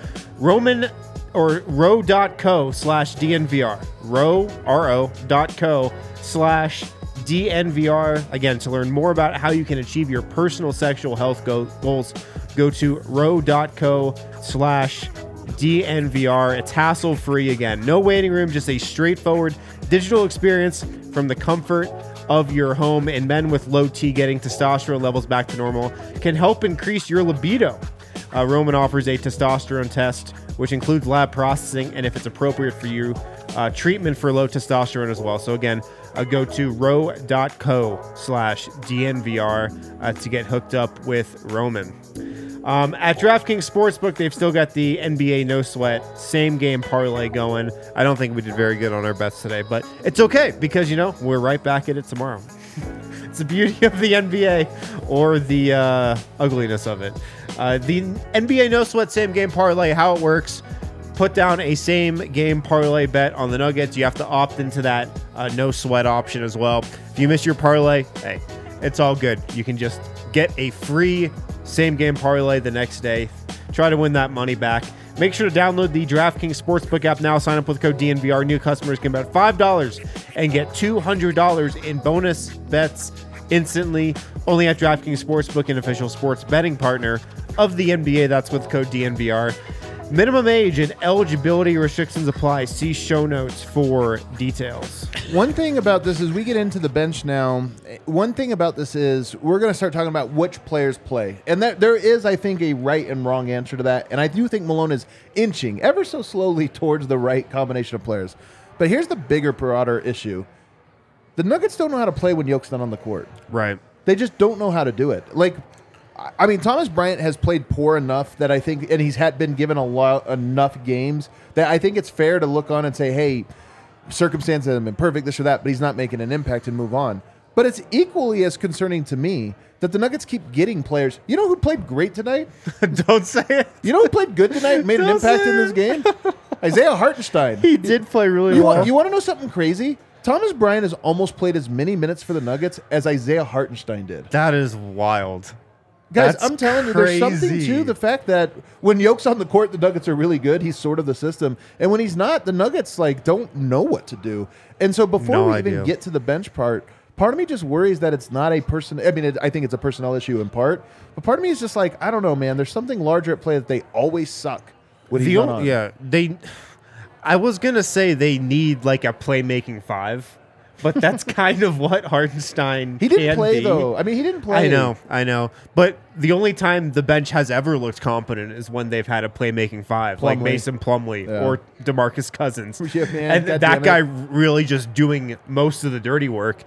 ro.co/DNVR. ro.co/DNVR. Again, to learn more about how you can achieve your personal sexual health goals, go to ro.co/DNVR. It's hassle-free. Again, no waiting room, just a straightforward digital experience from the comfort of your home. And men with low T getting testosterone levels back to normal can help increase your libido. Roman offers a testosterone test, which includes lab processing, and if it's appropriate for you, treatment for low testosterone as well. So again, go to ro.co/DNVR to get hooked up with Roman. At DraftKings Sportsbook, they've still got the NBA No Sweat same game parlay going. I don't think we did very good on our bets today, but it's okay because, we're right back at it tomorrow. It's the beauty of the NBA or the ugliness of it. The NBA No Sweat same game parlay, how it works: put down a same game parlay bet on the Nuggets. You have to opt into that no sweat option as well. If you miss your parlay, hey, it's all good. You can just get a free same game parlay the next day. Try to win that money back. Make sure to download the DraftKings Sportsbook app now. Sign up with code DNVR. New customers can bet $5 and get $200 in bonus bets instantly. Only at DraftKings Sportsbook, an official sports betting partner of the NBA. That's with code DNVR. Minimum age and eligibility restrictions apply. See show notes for details. One thing about this is we get into the bench now. One thing about this is we're going to start talking about which players play. And there is, I think, a right and wrong answer to that. And I do think Malone is inching ever so slowly towards the right combination of players. But here's the bigger, broader issue. The Nuggets don't know how to play when Yoke's not on the court. Right. They just don't know how to do it. Like, I mean, Thomas Bryant has played poor enough that I think, and he's been given enough games that I think it's fair to look on and say, hey, circumstances haven't been perfect, this or that, but he's not making an impact and move on. But it's equally as concerning to me that the Nuggets keep getting players. You know who played great tonight? Don't say it. You know who played good tonight and made an Don't impact say in this it. game? Isaiah Hartenstein. He did play really You well. want to know something crazy? Thomas Bryant has almost played as many minutes for the Nuggets as Isaiah Hartenstein did. That is wild. Guys, That's I'm telling you, there's something crazy. to the fact that when Yoke's on the court, the Nuggets are really good. He's sort of the system. And when he's not, the Nuggets don't know what to do. And so before No we idea. even get to the bench part of me just worries that it's not a person. I mean, I think it's a personnel issue in part. But part of me is just like, I don't know, man. There's something larger at play that they always suck when he's not on. Yeah, I was gonna say they need like a playmaking five, but that's kind of what Hartenstein. He didn't can play, be. though. I mean, he didn't play. I know. But the only time the bench has ever looked competent is when they've had a playmaking five, like Plumlee. Mason Plumlee Yeah. or DeMarcus Cousins. Yeah, man, and God that damn it. guy really just doing most of the dirty work.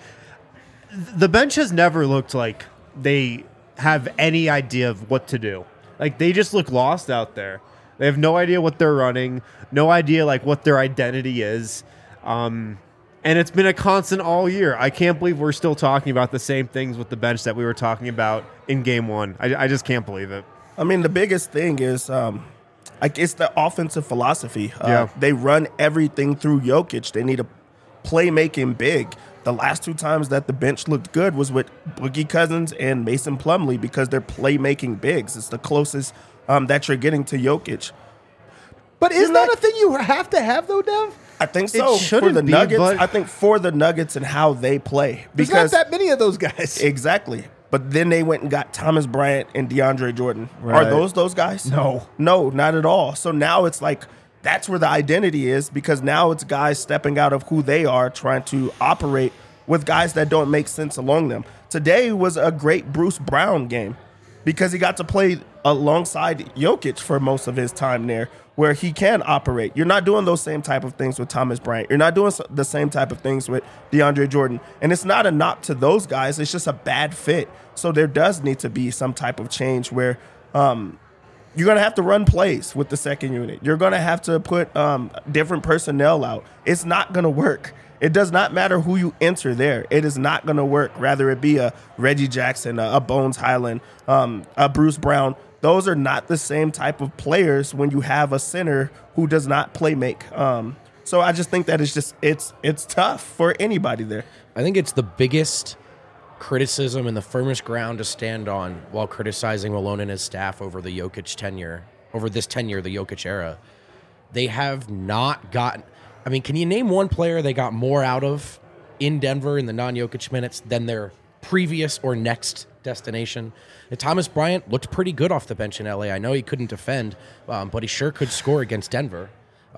The bench has never looked like they have any idea of what to do. Like, they just look lost out there. They have no idea what they're running, no idea like what their identity is. And it's been a constant all year. I can't believe we're still talking about the same things with the bench that we were talking about in game one. I just can't believe it. I mean, the biggest thing is, it's the offensive philosophy. Yeah. They run everything through Jokic. They need a playmaking big. The last two times that the bench looked good was with Boogie Cousins and Mason Plumlee because they're playmaking bigs. It's the closest that you're getting to Jokic. But isn't that a thing you have to have, though, Dev? I think so. For shouldn't the be, Nuggets, but- I think for the Nuggets and how they play. There's Because not that many of those guys. exactly. But then they went and got Thomas Bryant and DeAndre Jordan. Right. Are those guys? No, not at all. So now it's like that's where the identity is because now it's guys stepping out of who they are, trying to operate with guys that don't make sense along them. Today was a great Bruce Brown game because he got to play alongside Jokic for most of his time there where he can operate. You're not doing those same type of things with Thomas Bryant. You're not doing the same type of things with DeAndre Jordan. And it's not a knock to those guys. It's just a bad fit. So there does need to be some type of change where you're going to have to run plays with the second unit. You're going to have to put different personnel out. It's not going to work. It does not matter who you enter there. It is not going to work. Rather it be a Reggie Jackson, a Bones Highland, a Bruce Brown. Those are not the same type of players when you have a center who does not play make. So I just think that it's tough for anybody there. I think it's the biggest criticism and the firmest ground to stand on while criticizing Malone and his staff over the Jokic tenure, the Jokic era. They have not gotten... I mean, can you name one player they got more out of in Denver in the non-Jokic minutes than their previous or next destination? And Thomas Bryant looked pretty good off the bench in LA. I know he couldn't defend, but he sure could score against Denver.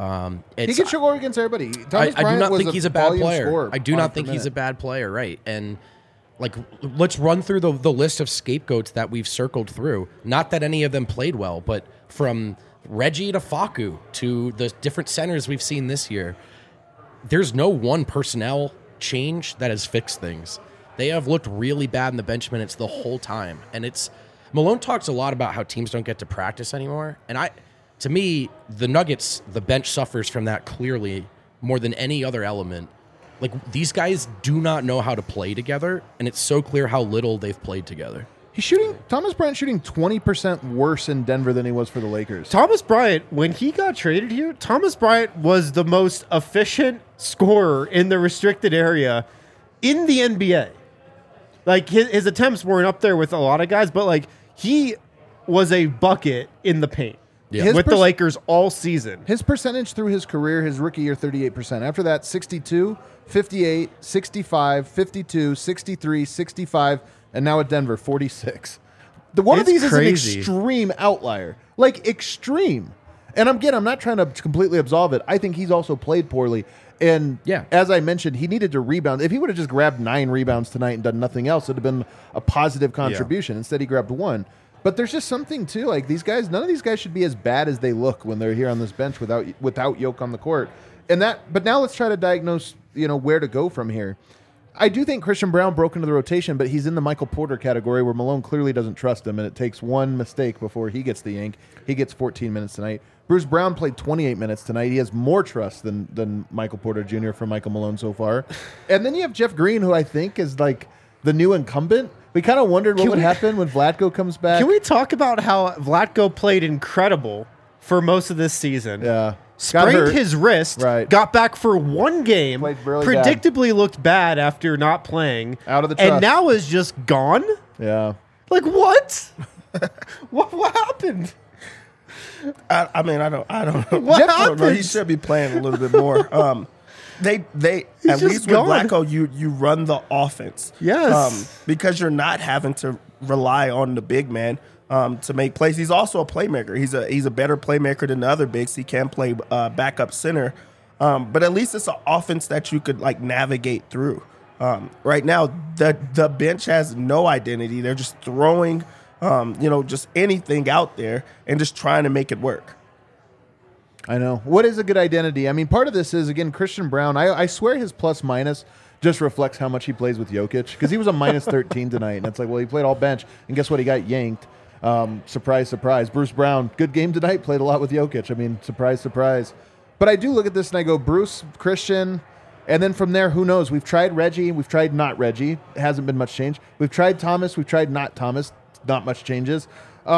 He can score against everybody. Thomas I do Bryant not was think he's a bad volume player. scorer I do on not per think he's a minute. bad player, right? And like, let's run through the list of scapegoats that we've circled through. Not that any of them played well, but from Reggie to Facu to the different centers we've seen this year, there's no one personnel change that has fixed things. They have looked really bad in the bench minutes the whole time. And Malone talks a lot about how teams don't get to practice anymore. And to me, the Nuggets, the bench suffers from that clearly more than any other element. Like, these guys do not know how to play together, and it's so clear how little they've played together. Thomas Bryant shooting 20% worse in Denver than he was for the Lakers. Thomas Bryant, when he got traded here, Thomas Bryant was the most efficient scorer in the restricted area in the NBA. Like, his attempts weren't up there with a lot of guys, but like, he was a bucket in the paint Yeah. with the Lakers all season. His percentage through his career, his rookie year, 38%. After that, 62, 58, 65, 52, 63, 65, and now at Denver, 46. One of It's these crazy. is an extreme outlier. Like, extreme. And I'm not trying to completely absolve it. I think he's also played poorly. And Yeah. as I mentioned, he needed to rebound. If he would have just grabbed 9 rebounds tonight and done nothing else, it would have been a positive contribution. Instead, he grabbed 1. But there's just something too, like these guys. None of these guys should be as bad as they look when they're here on this bench without Yoke on the court. But now let's try to diagnose, where to go from here. I do think Christian Brown broke into the rotation, but he's in the Michael Porter category where Malone clearly doesn't trust him, and it takes one mistake before he gets the yank. He gets 14 minutes tonight. Bruce Brown played 28 minutes tonight. He has more trust than Michael Porter Jr. from Michael Malone so far. And then you have Jeff Green, who I think is like the new incumbent. We kind of wondered what would happen when Vlatko comes back. Can we talk about how Vlatko played incredible for most of this season? Yeah. Sprained his wrist, Right. got back for one game, Played really predictably looked bad after not playing, Out of the and trust. now is just gone? Yeah. Like, what? what happened? I mean, I don't know. What I don't know. He happened? should be playing a little bit more. They at just least with gone. Vlatko, you run the offense. Yes. Because you're not having to rely on the big man to make plays. He's also a playmaker. He's a better playmaker than the other bigs. He can play backup center, but at least it's an offense that you could like navigate through. Right now, the bench has no identity. They're just throwing, just anything out there and just trying to make it work. I know. What is a good identity? I mean, part of this is, again, Christian Brown. I swear his plus minus just reflects how much he plays with Jokic, because he was a minus 13 tonight. And it's like, well, he played all bench. And guess what? He got yanked. Surprise, surprise. Bruce Brown, good game tonight, played a lot with Jokic. I mean, surprise, surprise. But I do look at this and I go, Bruce, Christian, and then from there, who knows? We've tried Reggie. We've tried not Reggie. It hasn't been much change. We've tried Thomas. We've tried not Thomas. Not much changes.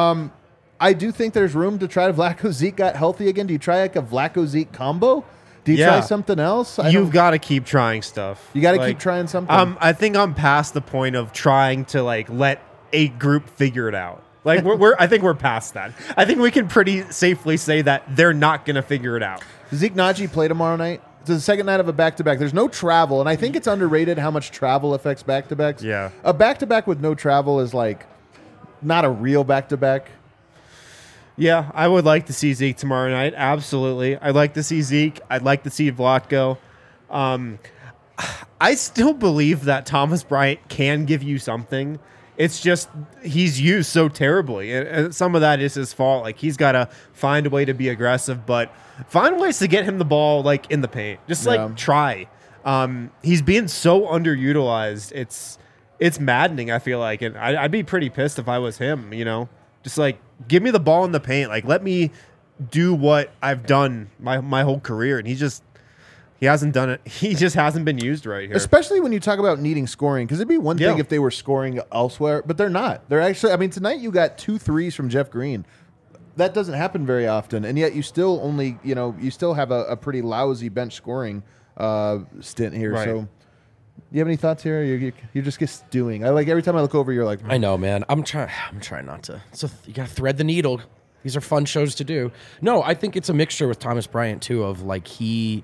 I do think there's room to try Vlatko Zeke got healthy again. Do you try like a Vlatko Zeke combo? Do you try something else? You've got to keep trying stuff. You got to keep trying something. I think I'm past the point of trying to like let a group figure it out. Like I think we're past that. I think we can pretty safely say that they're not going to figure it out. Zeke Naji play tomorrow night. It's the second night of a back-to-back. There's no travel, and I think it's underrated how much travel affects back-to-backs. Yeah. A back-to-back with no travel is like not a real back-to-back. Yeah, I would like to see Zeke tomorrow night. Absolutely. I'd like to see Zeke. I'd like to see Vlatko. I still believe that Thomas Bryant can give you something. It's just he's used so terribly. And some of that is his fault. Like, he's got to find a way to be aggressive, but find ways to get him the ball, like, in the paint. Just, like, try. He's being so underutilized. It's maddening, I feel like. And I'd be pretty pissed if I was him, you know? Just, like, give me the ball in the paint. Like, let me do what I've done my whole career. And he hasn't done it. He just hasn't been used right here. Especially when you talk about needing scoring, because it'd be one thing if they were scoring elsewhere, but they're not. They're actually, I mean, tonight you got 2 threes from Jeff Green. That doesn't happen very often, and yet you still only, you still have a pretty lousy bench scoring stint here. Right. So, you have any thoughts here? You're just stewing. I like every time I look over, you're like, I know, man. I'm trying not to. So you got to thread the needle. These are fun shows to do. No, I think it's a mixture with Thomas Bryant too. Of like he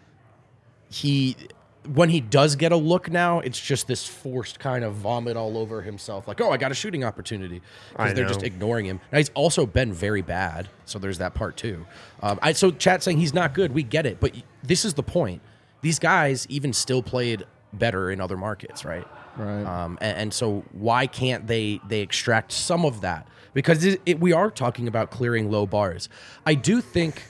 when he does get a look now, it's just this forced kind of vomit all over himself. Like, oh, I got a shooting opportunity because they're just ignoring him. Now he's also been very bad, so there's that part too. So chat saying he's not good, we get it, but this is the point. These guys even still played better in other markets, right? Right. And so why can't they extract some of that? Because we are talking about clearing low bars. I do think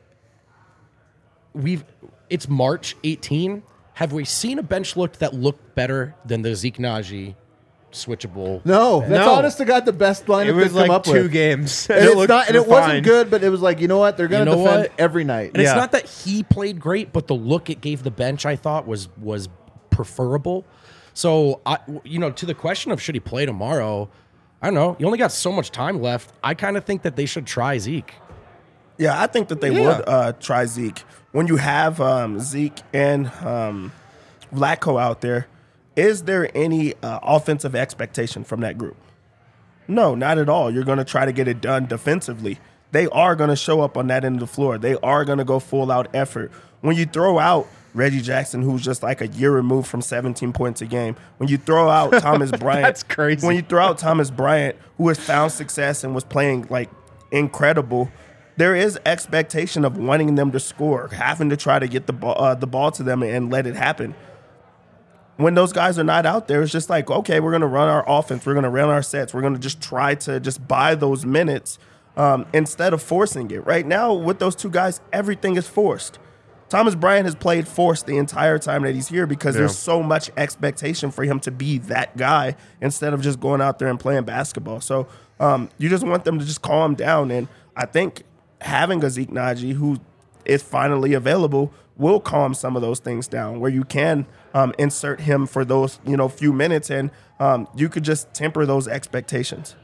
it's March 18. Have we seen a bench look that looked better than the Zeke Naji switchable? No, that's No. honest to God the best lineup It was they've come like up 2 with. games. And it's looked not, and it wasn't refined. good, but it was like, you know what? They're going to You know defend what? every night. And Yeah. it's not that he played great, but the look it gave the bench, I thought, was preferable. So, to the question of should he play tomorrow, I don't know. You only got so much time left. I kind of think that they should try Zeke. Yeah, I think that they would try Zeke. When you have Zeke and Vlatko out there, is there any offensive expectation from that group? No, not at all. You're going to try to get it done defensively. They are going to show up on that end of the floor. They are going to go full-out effort. When you throw out Reggie Jackson, who's just like a year removed from 17 points a game, when you throw out Thomas Bryant. That's crazy. When you throw out Thomas Bryant, who has found success and was playing like incredible, there is expectation of wanting them to score, having to try to get the ball to them and let it happen. When those guys are not out there, it's just like, okay, we're going to run our offense. We're going to run our sets. We're going to just try to just buy those minutes instead of forcing it. Right now, with those 2 guys, everything is forced. Thomas Bryant has played forced the entire time that he's here because Yeah. there's so much expectation for him to be that guy instead of just going out there and playing basketball. So you just want them to just calm down. And I think having a Zeke Naji who is finally available will calm some of those things down where you can insert him for those, few minutes and you could just temper those expectations.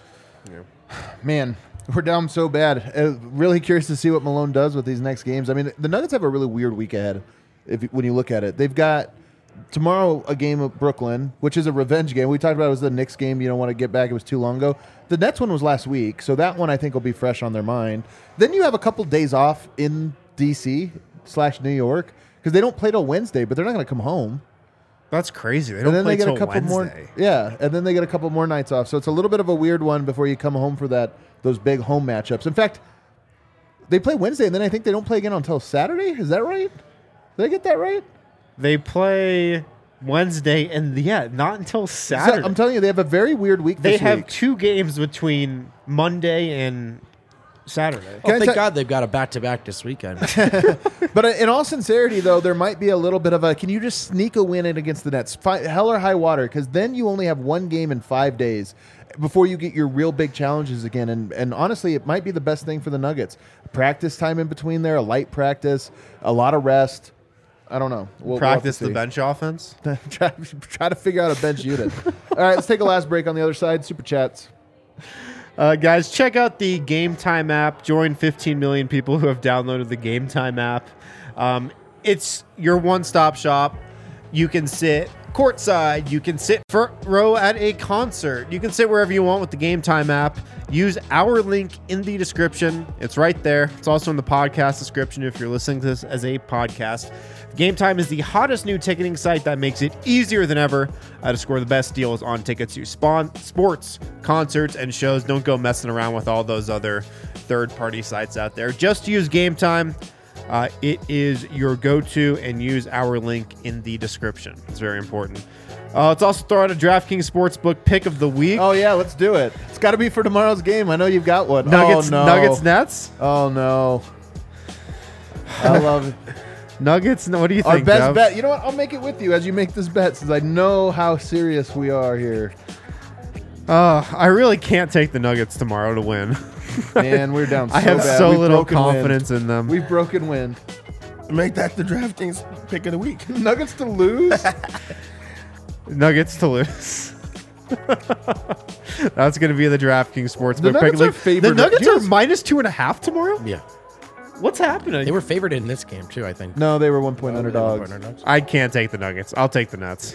Man, we're down so bad. Really curious to see what Malone does with these next games. I mean, the Nuggets have a really weird week ahead when you look at it. They've got tomorrow a game of Brooklyn, which is a revenge game. We talked about it was the Knicks game. You don't want to get back. It was too long ago. The Nets one was last week, so that one I think will be fresh on their mind. Then you have a couple days off in D.C./New York because they don't play till Wednesday, but they're not going to come home. That's crazy. They And don't then play they get a till couple Wednesday. more. Yeah, and then they get a couple more nights off. So it's a little bit of a weird one before you come home for those big home matchups. In fact, they play Wednesday, and then I think they don't play again until Saturday. Is that right? Did I get that right? They play Wednesday, and not until So, Saturday. I'm telling you, they have a very weird week. They this have week. 2 games between Monday and Saturday. Oh, Can I thank tell- God they've got a back-to-back this weekend. But in all sincerity, though, there might be a little bit of a. Can you just sneak a win in against the Nets? Hell or high water, because then you only have one game in 5 days before you get your real big challenges again. And honestly, it might be the best thing for the Nuggets. Practice time in between there, a light practice, a lot of rest. I don't know. We'll have to Practice the see. bench offense. try to figure out a bench unit. All right, let's take a last break on the other side. Super chats. Guys, check out the Game Time app. Join 15 million people who have downloaded the Game Time app. It's your one-stop shop. You can sit courtside. You can sit front row at a concert. You can sit wherever you want with the Game Time app. Use our link in the description. It's right there. It's also in the podcast description if you're listening to this as a podcast. Game Time is the hottest new ticketing site that makes it easier than ever to score the best deals on tickets to sports, concerts, and shows. Don't go messing around with all those other third-party sites out there. Just use Game Time. It is your go-to, and use our link in the description. It's very important. Let's also throw out a DraftKings Sportsbook pick of the week. Oh yeah, let's do it. It's got to be for tomorrow's game. I know you've got one. Nuggets, Oh no. Nuggets, Nets. Oh no. I love it. Nuggets. What do you Our think? best Dev? bet. You know what? I'll make it with you as you make this bet, since I know how serious we are here. I really can't take the Nuggets tomorrow to win. Man, we're down. So I have bad. so We've little broken confidence wind. in them. We've broken wind. Make that the DraftKings pick of the week. Nuggets to lose. Nuggets to lose. That's going to be the DraftKings Sportsbook The Nuggets pick. are favored. The Nuggets Do you are minus 2.5 tomorrow. Yeah. What's happening? They were favored in this game, too, I think. No, they were 1 point underdogs. I can't take the Nuggets. I'll take the Nets.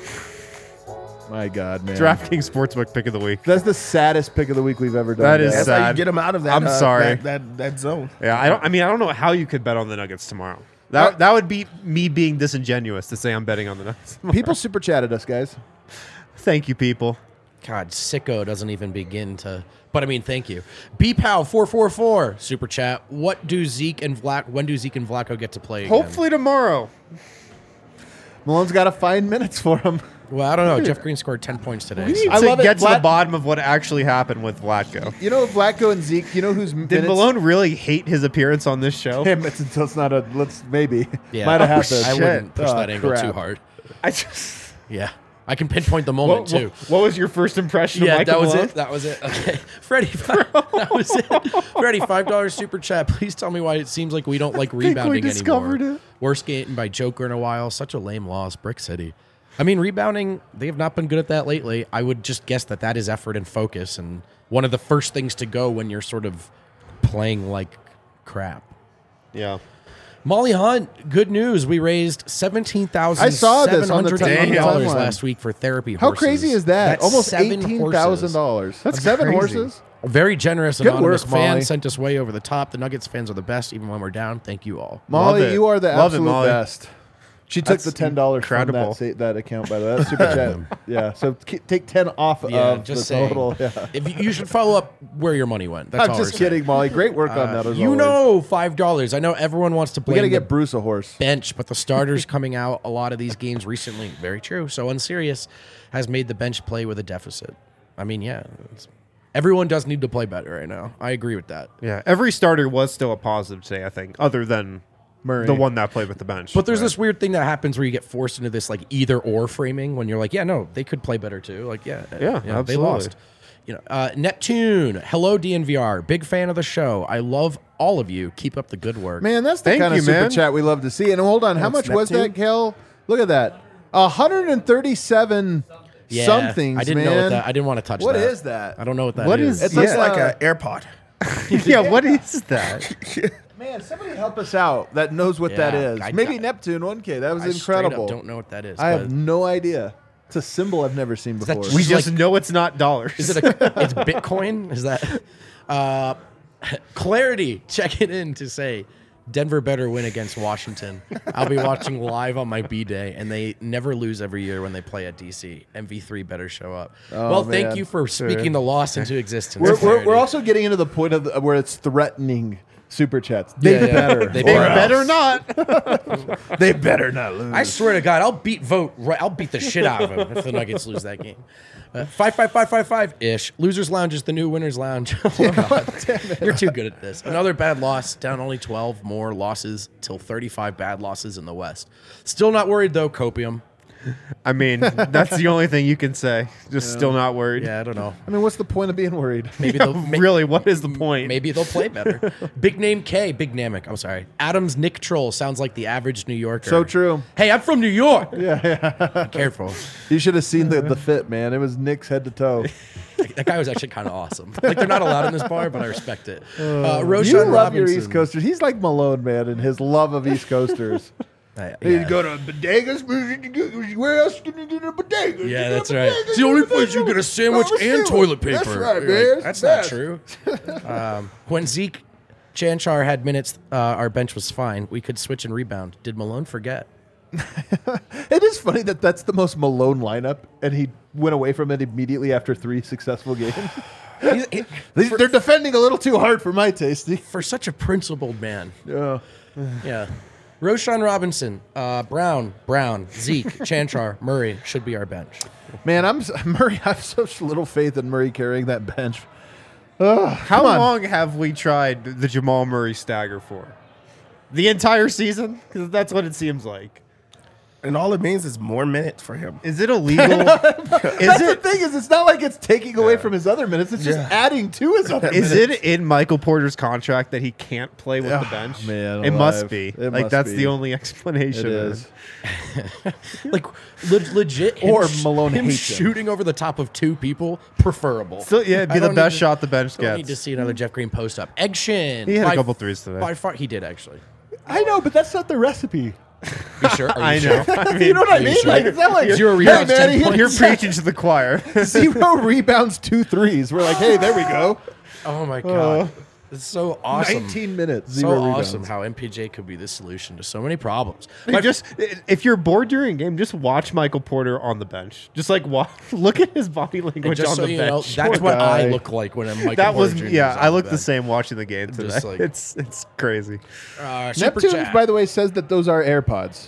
My God, man. DraftKings Sportsbook pick of the week. That's the saddest pick of the week we've ever done. That is guys. That's how you sad. get them out of that. I'm sorry. That zone. Yeah, I don't know how you could bet on the Nuggets tomorrow. That would be me being disingenuous to say I'm betting on the Nuggets. People super chatted us, guys. Thank you, people. God, sicko doesn't even begin to. But I mean, thank you. BPOW444 super chat. When do Zeke and Vlaco get to play again? Hopefully tomorrow. Malone's got to find minutes for him. Well, I don't know. Jeff Green scored 10 points today. We need I to love it. get to the Vlad- bottom of what actually happened with Vlatko. You know, Vlatko and Zeke. You know who's Did Malone really hate his appearance on this show? Him. It's not a. Let's maybe. Yeah. Might have Oh, happened. I wouldn't push Oh, that angle crap. too hard. I just. Yeah. I can pinpoint the moment, too. What was your first impression Yeah, of Michael that was Malone? it. That was it. Okay. Freddie, that was it. Freddie, $5 super chat. Please tell me why it seems like we don't like rebounding discovered anymore. it. Worst game by Joker in a while. Such a lame loss. Brick City. I mean, rebounding, they have not been good at that lately. I would just guess that is effort and focus, and one of the first things to go when you're sort of playing like crap. Yeah. Molly Hunt, good news. We raised I saw this on the $17,700 timeline. last week for therapy How horses. crazy is that? That's Almost 7 $18,000. That's 7 crazy. horses. Very generous Good anonymous work, fan Molly. sent us way over the top. The Nuggets fans are the best, even when we're down. Thank you all. Molly, it. you are the Love it, absolute Molly. best. She took That's the $10 incredible. from that account, by the way. That's super chat. Yeah, so take 10 off Yeah, of just the saying. total. Yeah. If you should follow up where your money went. That's I'm all just we're saying. kidding, Molly. Great work on that as You always. know, $5. I know everyone wants to we blame got to the get Bruce a horse. bench, but the starters coming out a lot of these games recently. Very true. So Unserious has made the bench play with a deficit. I mean, yeah. Everyone does need to play better right now. I agree with that. Yeah. Every starter was still a positive today, I think, other than Murray. The one that played with the bench. But there's this weird thing that happens where you get forced into this like either or framing when you're like, yeah, no, they could play better too. Like, Yeah, they absolutely. lost. Neptune, hello DNVR, big fan of the show. I love all of you. Keep up the good work. Man, that's the Thank kind you, of super man. chat we love to see. And hold on, how much was that, Kel? Look at that. 137 Yeah, somethings, I didn't man. know what that. I didn't want to touch What that. is that? I don't know what that is. What is- It looks Yeah. like an AirPod. Yeah, what is that? Man, somebody help us out that knows what that Yeah, is. I- Maybe Neptune 1K. That was I straight up incredible. don't know what that is. I but have no idea. It's a symbol I've never seen that before. just- We It's just like- know it's not dollars. Is it it's Bitcoin? Is that Clarity checking in to say Denver better win against Washington. I'll be watching live on my B day, and they never lose every year when they play at DC. MV3 better show up. well, man. thank you for speaking the loss into existence. we're Clarity. also getting into the point of where it's threatening super chats. They Yeah, yeah. better. They They Or better not. They better not lose. I swear to God, I'll beat the shit out of him if the Nuggets lose that game. 5-5-5-5-5 ish. Losers Lounge is the new Winners Lounge. Oh, God. You're too good at this. Another bad loss. Down only 12 more losses till 35 bad losses in the West. Still not worried though. Copium. I mean, that's the only thing you can say. Just still not worried. Yeah, I don't know. I mean, what's the point of being worried? Maybe Yeah, they'll really, what is the point? Maybe they'll play better. Big name K, Big Namek. I'm sorry. Adams Nick Troll sounds like the average New Yorker. So true. Hey, I'm from New York. Yeah. Be careful. You should have seen the fit, man. It was Nick's head to toe. That guy was actually kind of awesome. Like they're not allowed in this bar, but I respect it. Roshan You love Robinson. your East Coasters. He's like Malone, man, and his love of East Coasters. Yeah. You go to bodegas. Where else can you get a bodega? Yeah, that's right. It's the only place you get a sandwich and toilet paper. That's right, You're man. That's not true. When Zeke Chanchar had minutes, our bench was fine. We could switch and rebound. Did Malone forget? It is funny that that's the most Malone lineup, and he went away from it immediately after 3 successful games. They're defending a little too hard for my tasty. For such a principled man. Yeah. Yeah. Roshan Robinson, Brown, Zeke, Chanchar, Murray should be our bench. Man, Murray. I have such little faith in Murray carrying that bench. How Come on. long have we tried the Jamal Murray stagger for? The entire season? Because that's what it seems like. And all it means is more minutes for him. Is it illegal? That's the thing is, it's not like it's taking away from his other minutes. It's just Yeah. adding to his other minutes. Is it in Michael Porter's contract that he can't play with the bench? man it must alive. be. It Like must that's be. the only explanation. It man. is. Like legit, him Or Malone him hates him. shooting over the top of 2 people, preferable. So yeah, it'd I be the don't best need to- shot the bench Don't need to gets. see another Jeff Green post up. Egg Shin. He had a by- couple threes today. By far, he did actually. I know, but that's not the recipe. You sure? Are you I sure? know. I mean, You know what I you mean? sure? Like, it's not like 0 hey, rebounds, man, 10 he hit points. You're preaching to the choir. 0 rebounds, 2 threes. We're like, hey, there we go. Oh my god, it's so awesome. 19 minutes, So 0 rebounds. awesome how MPJ could be the solution to so many problems. Just if you're bored during a game, just watch Michael Porter on the bench. Just like look at his body And language just on so the you know, bench. that's Poor what I guy. look like when I'm Michael that was Porter Jr. yeah. is I on look the bench. same watching the game today. Just like- it's crazy. Super Neptunes, chat. by the way, says that those are AirPods.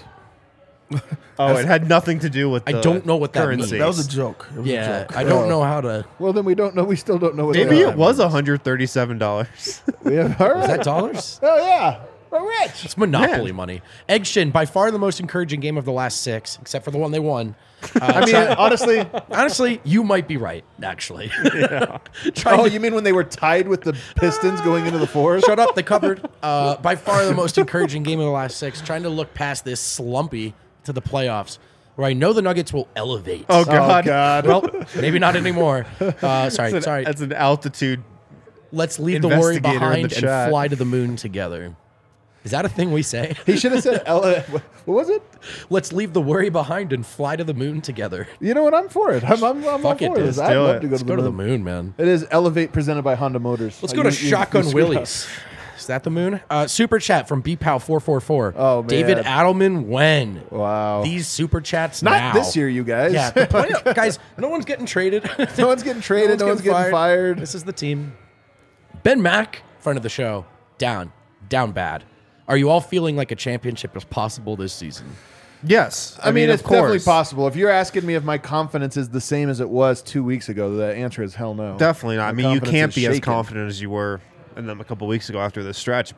Oh, it had nothing to do with. I the don't know what that currency. means. That was a joke. It was a Yeah, joke. I don't know how to. Well, then we don't know. We still don't know what Maybe they are. it was $137. We have, all right. Is that dollars? Oh, yeah. We're rich. It's Monopoly money. Egg Shin, by far the most encouraging game of the last 6, except for the one they won. I mean, honestly. Honestly, you might be right, actually. Trying Oh, to you mean when they were tied with the Pistons going into the fourth? shut up, they covered. By far the most encouraging game of the last 6. Trying to look past this slumpy to the playoffs, where I know the Nuggets will elevate. Oh Oh, God. God. Well, maybe not anymore. Sorry. That's an altitude. Let's leave the worry investigator in behind the and chat. fly to the moon together. Is that a thing we say? He should have said, what was it? Let's leave the worry behind and fly to the moon together. You know what? I'm for it. I'm all Fuck it, for dude. this. Let's I'd do love it. to go Let's to go the to the moon. moon, man. It is Elevate presented by Honda Motors. Let's go to Shotgun Willies. Is that the moon? Super chat from BPAL444. Oh, man. David Adelman, when? Wow. These super chats Not now. this year, you guys. Yeah, the point guys, no one's getting traded. No one's getting traded. No one's getting fired. This is the team. Ben Mack, friend of the show, down bad. Are you all feeling like a championship is possible this season? Yes, I mean, of it's definitely course. possible. If you're asking me if my confidence is the same as it was 2 weeks ago, the answer is hell no. Definitely not. I My mean, you confidence can't is be as shaken. confident as you were in them a couple weeks ago after this stretch, but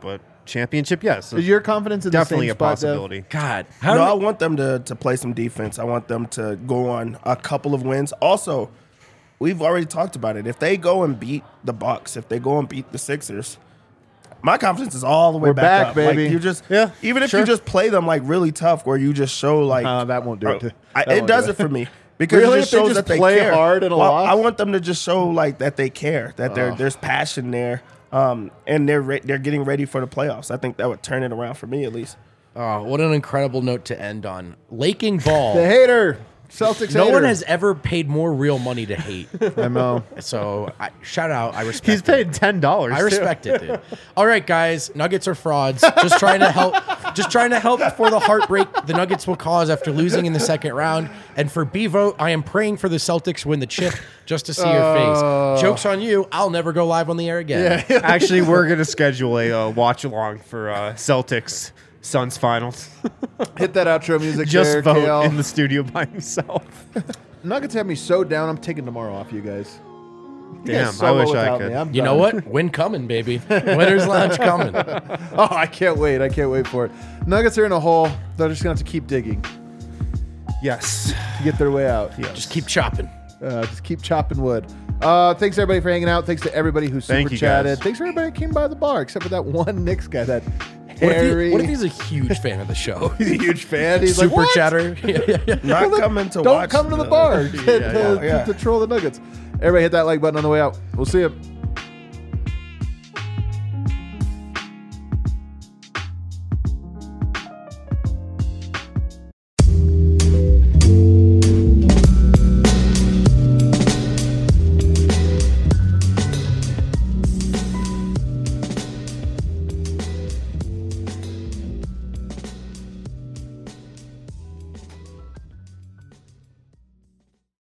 championship, yes. Is your confidence in Definitely the a same spot, Dev? possibility. God, No, I want them to play some defense. I want them to go on a couple of wins. Also, we've already talked about it. If they go and beat the Bucks, if they go and beat the Sixers, my confidence is all the way We're back, up. baby. Like, you just, Yeah, even if sure. you just play them like really tough, where you just show like That won't do it. That it won't does do it for me because Really? it just If they shows just that they play care. hard in a loss? I want them to just show like that they care, that there's passion there, and they're getting ready for the playoffs. I think that would turn it around for me at least. oh, what an incredible note to end on. Laking Ball. The hater. Celtics No hater. one has ever paid more real money to hate. I know. So shout out. I respect He's it. paid $10. I respect it, dude. All right, guys. Nuggets are frauds. Just trying to help. Just trying to help for the heartbreak the Nuggets will cause after losing in the second round. And for B-Vote, I am praying for the Celtics win the chip just to see your face. Joke's on you. I'll never go live on the air again. Actually, we're going to schedule a watch along for Celtics Suns finals. Hit that outro music Just there, vote KL. in the studio by himself. Nuggets have me so down, I'm taking tomorrow off you guys. You Damn, guys I solo wish I without could. me. I'm You know done. what? Win coming, baby. Winner's lounge coming. Oh, I can't wait. I can't wait for it. Nuggets are in a hole. They're just going to have to keep digging Yes. to get their way out. Just keep chopping. Just keep chopping wood. Thanks everybody for hanging out. Thanks to everybody who Thank super you, chatted. guys. Thanks for everybody who came by the bar, except for that one Knicks guy, that What hairy. if he's a huge fan of the show? He's a huge fan. He's Super like, what? chatter. Not Well, then coming to don't watch. come to the bar Yeah. to troll the Nuggets. Everybody hit that like button on the way out. We'll see you.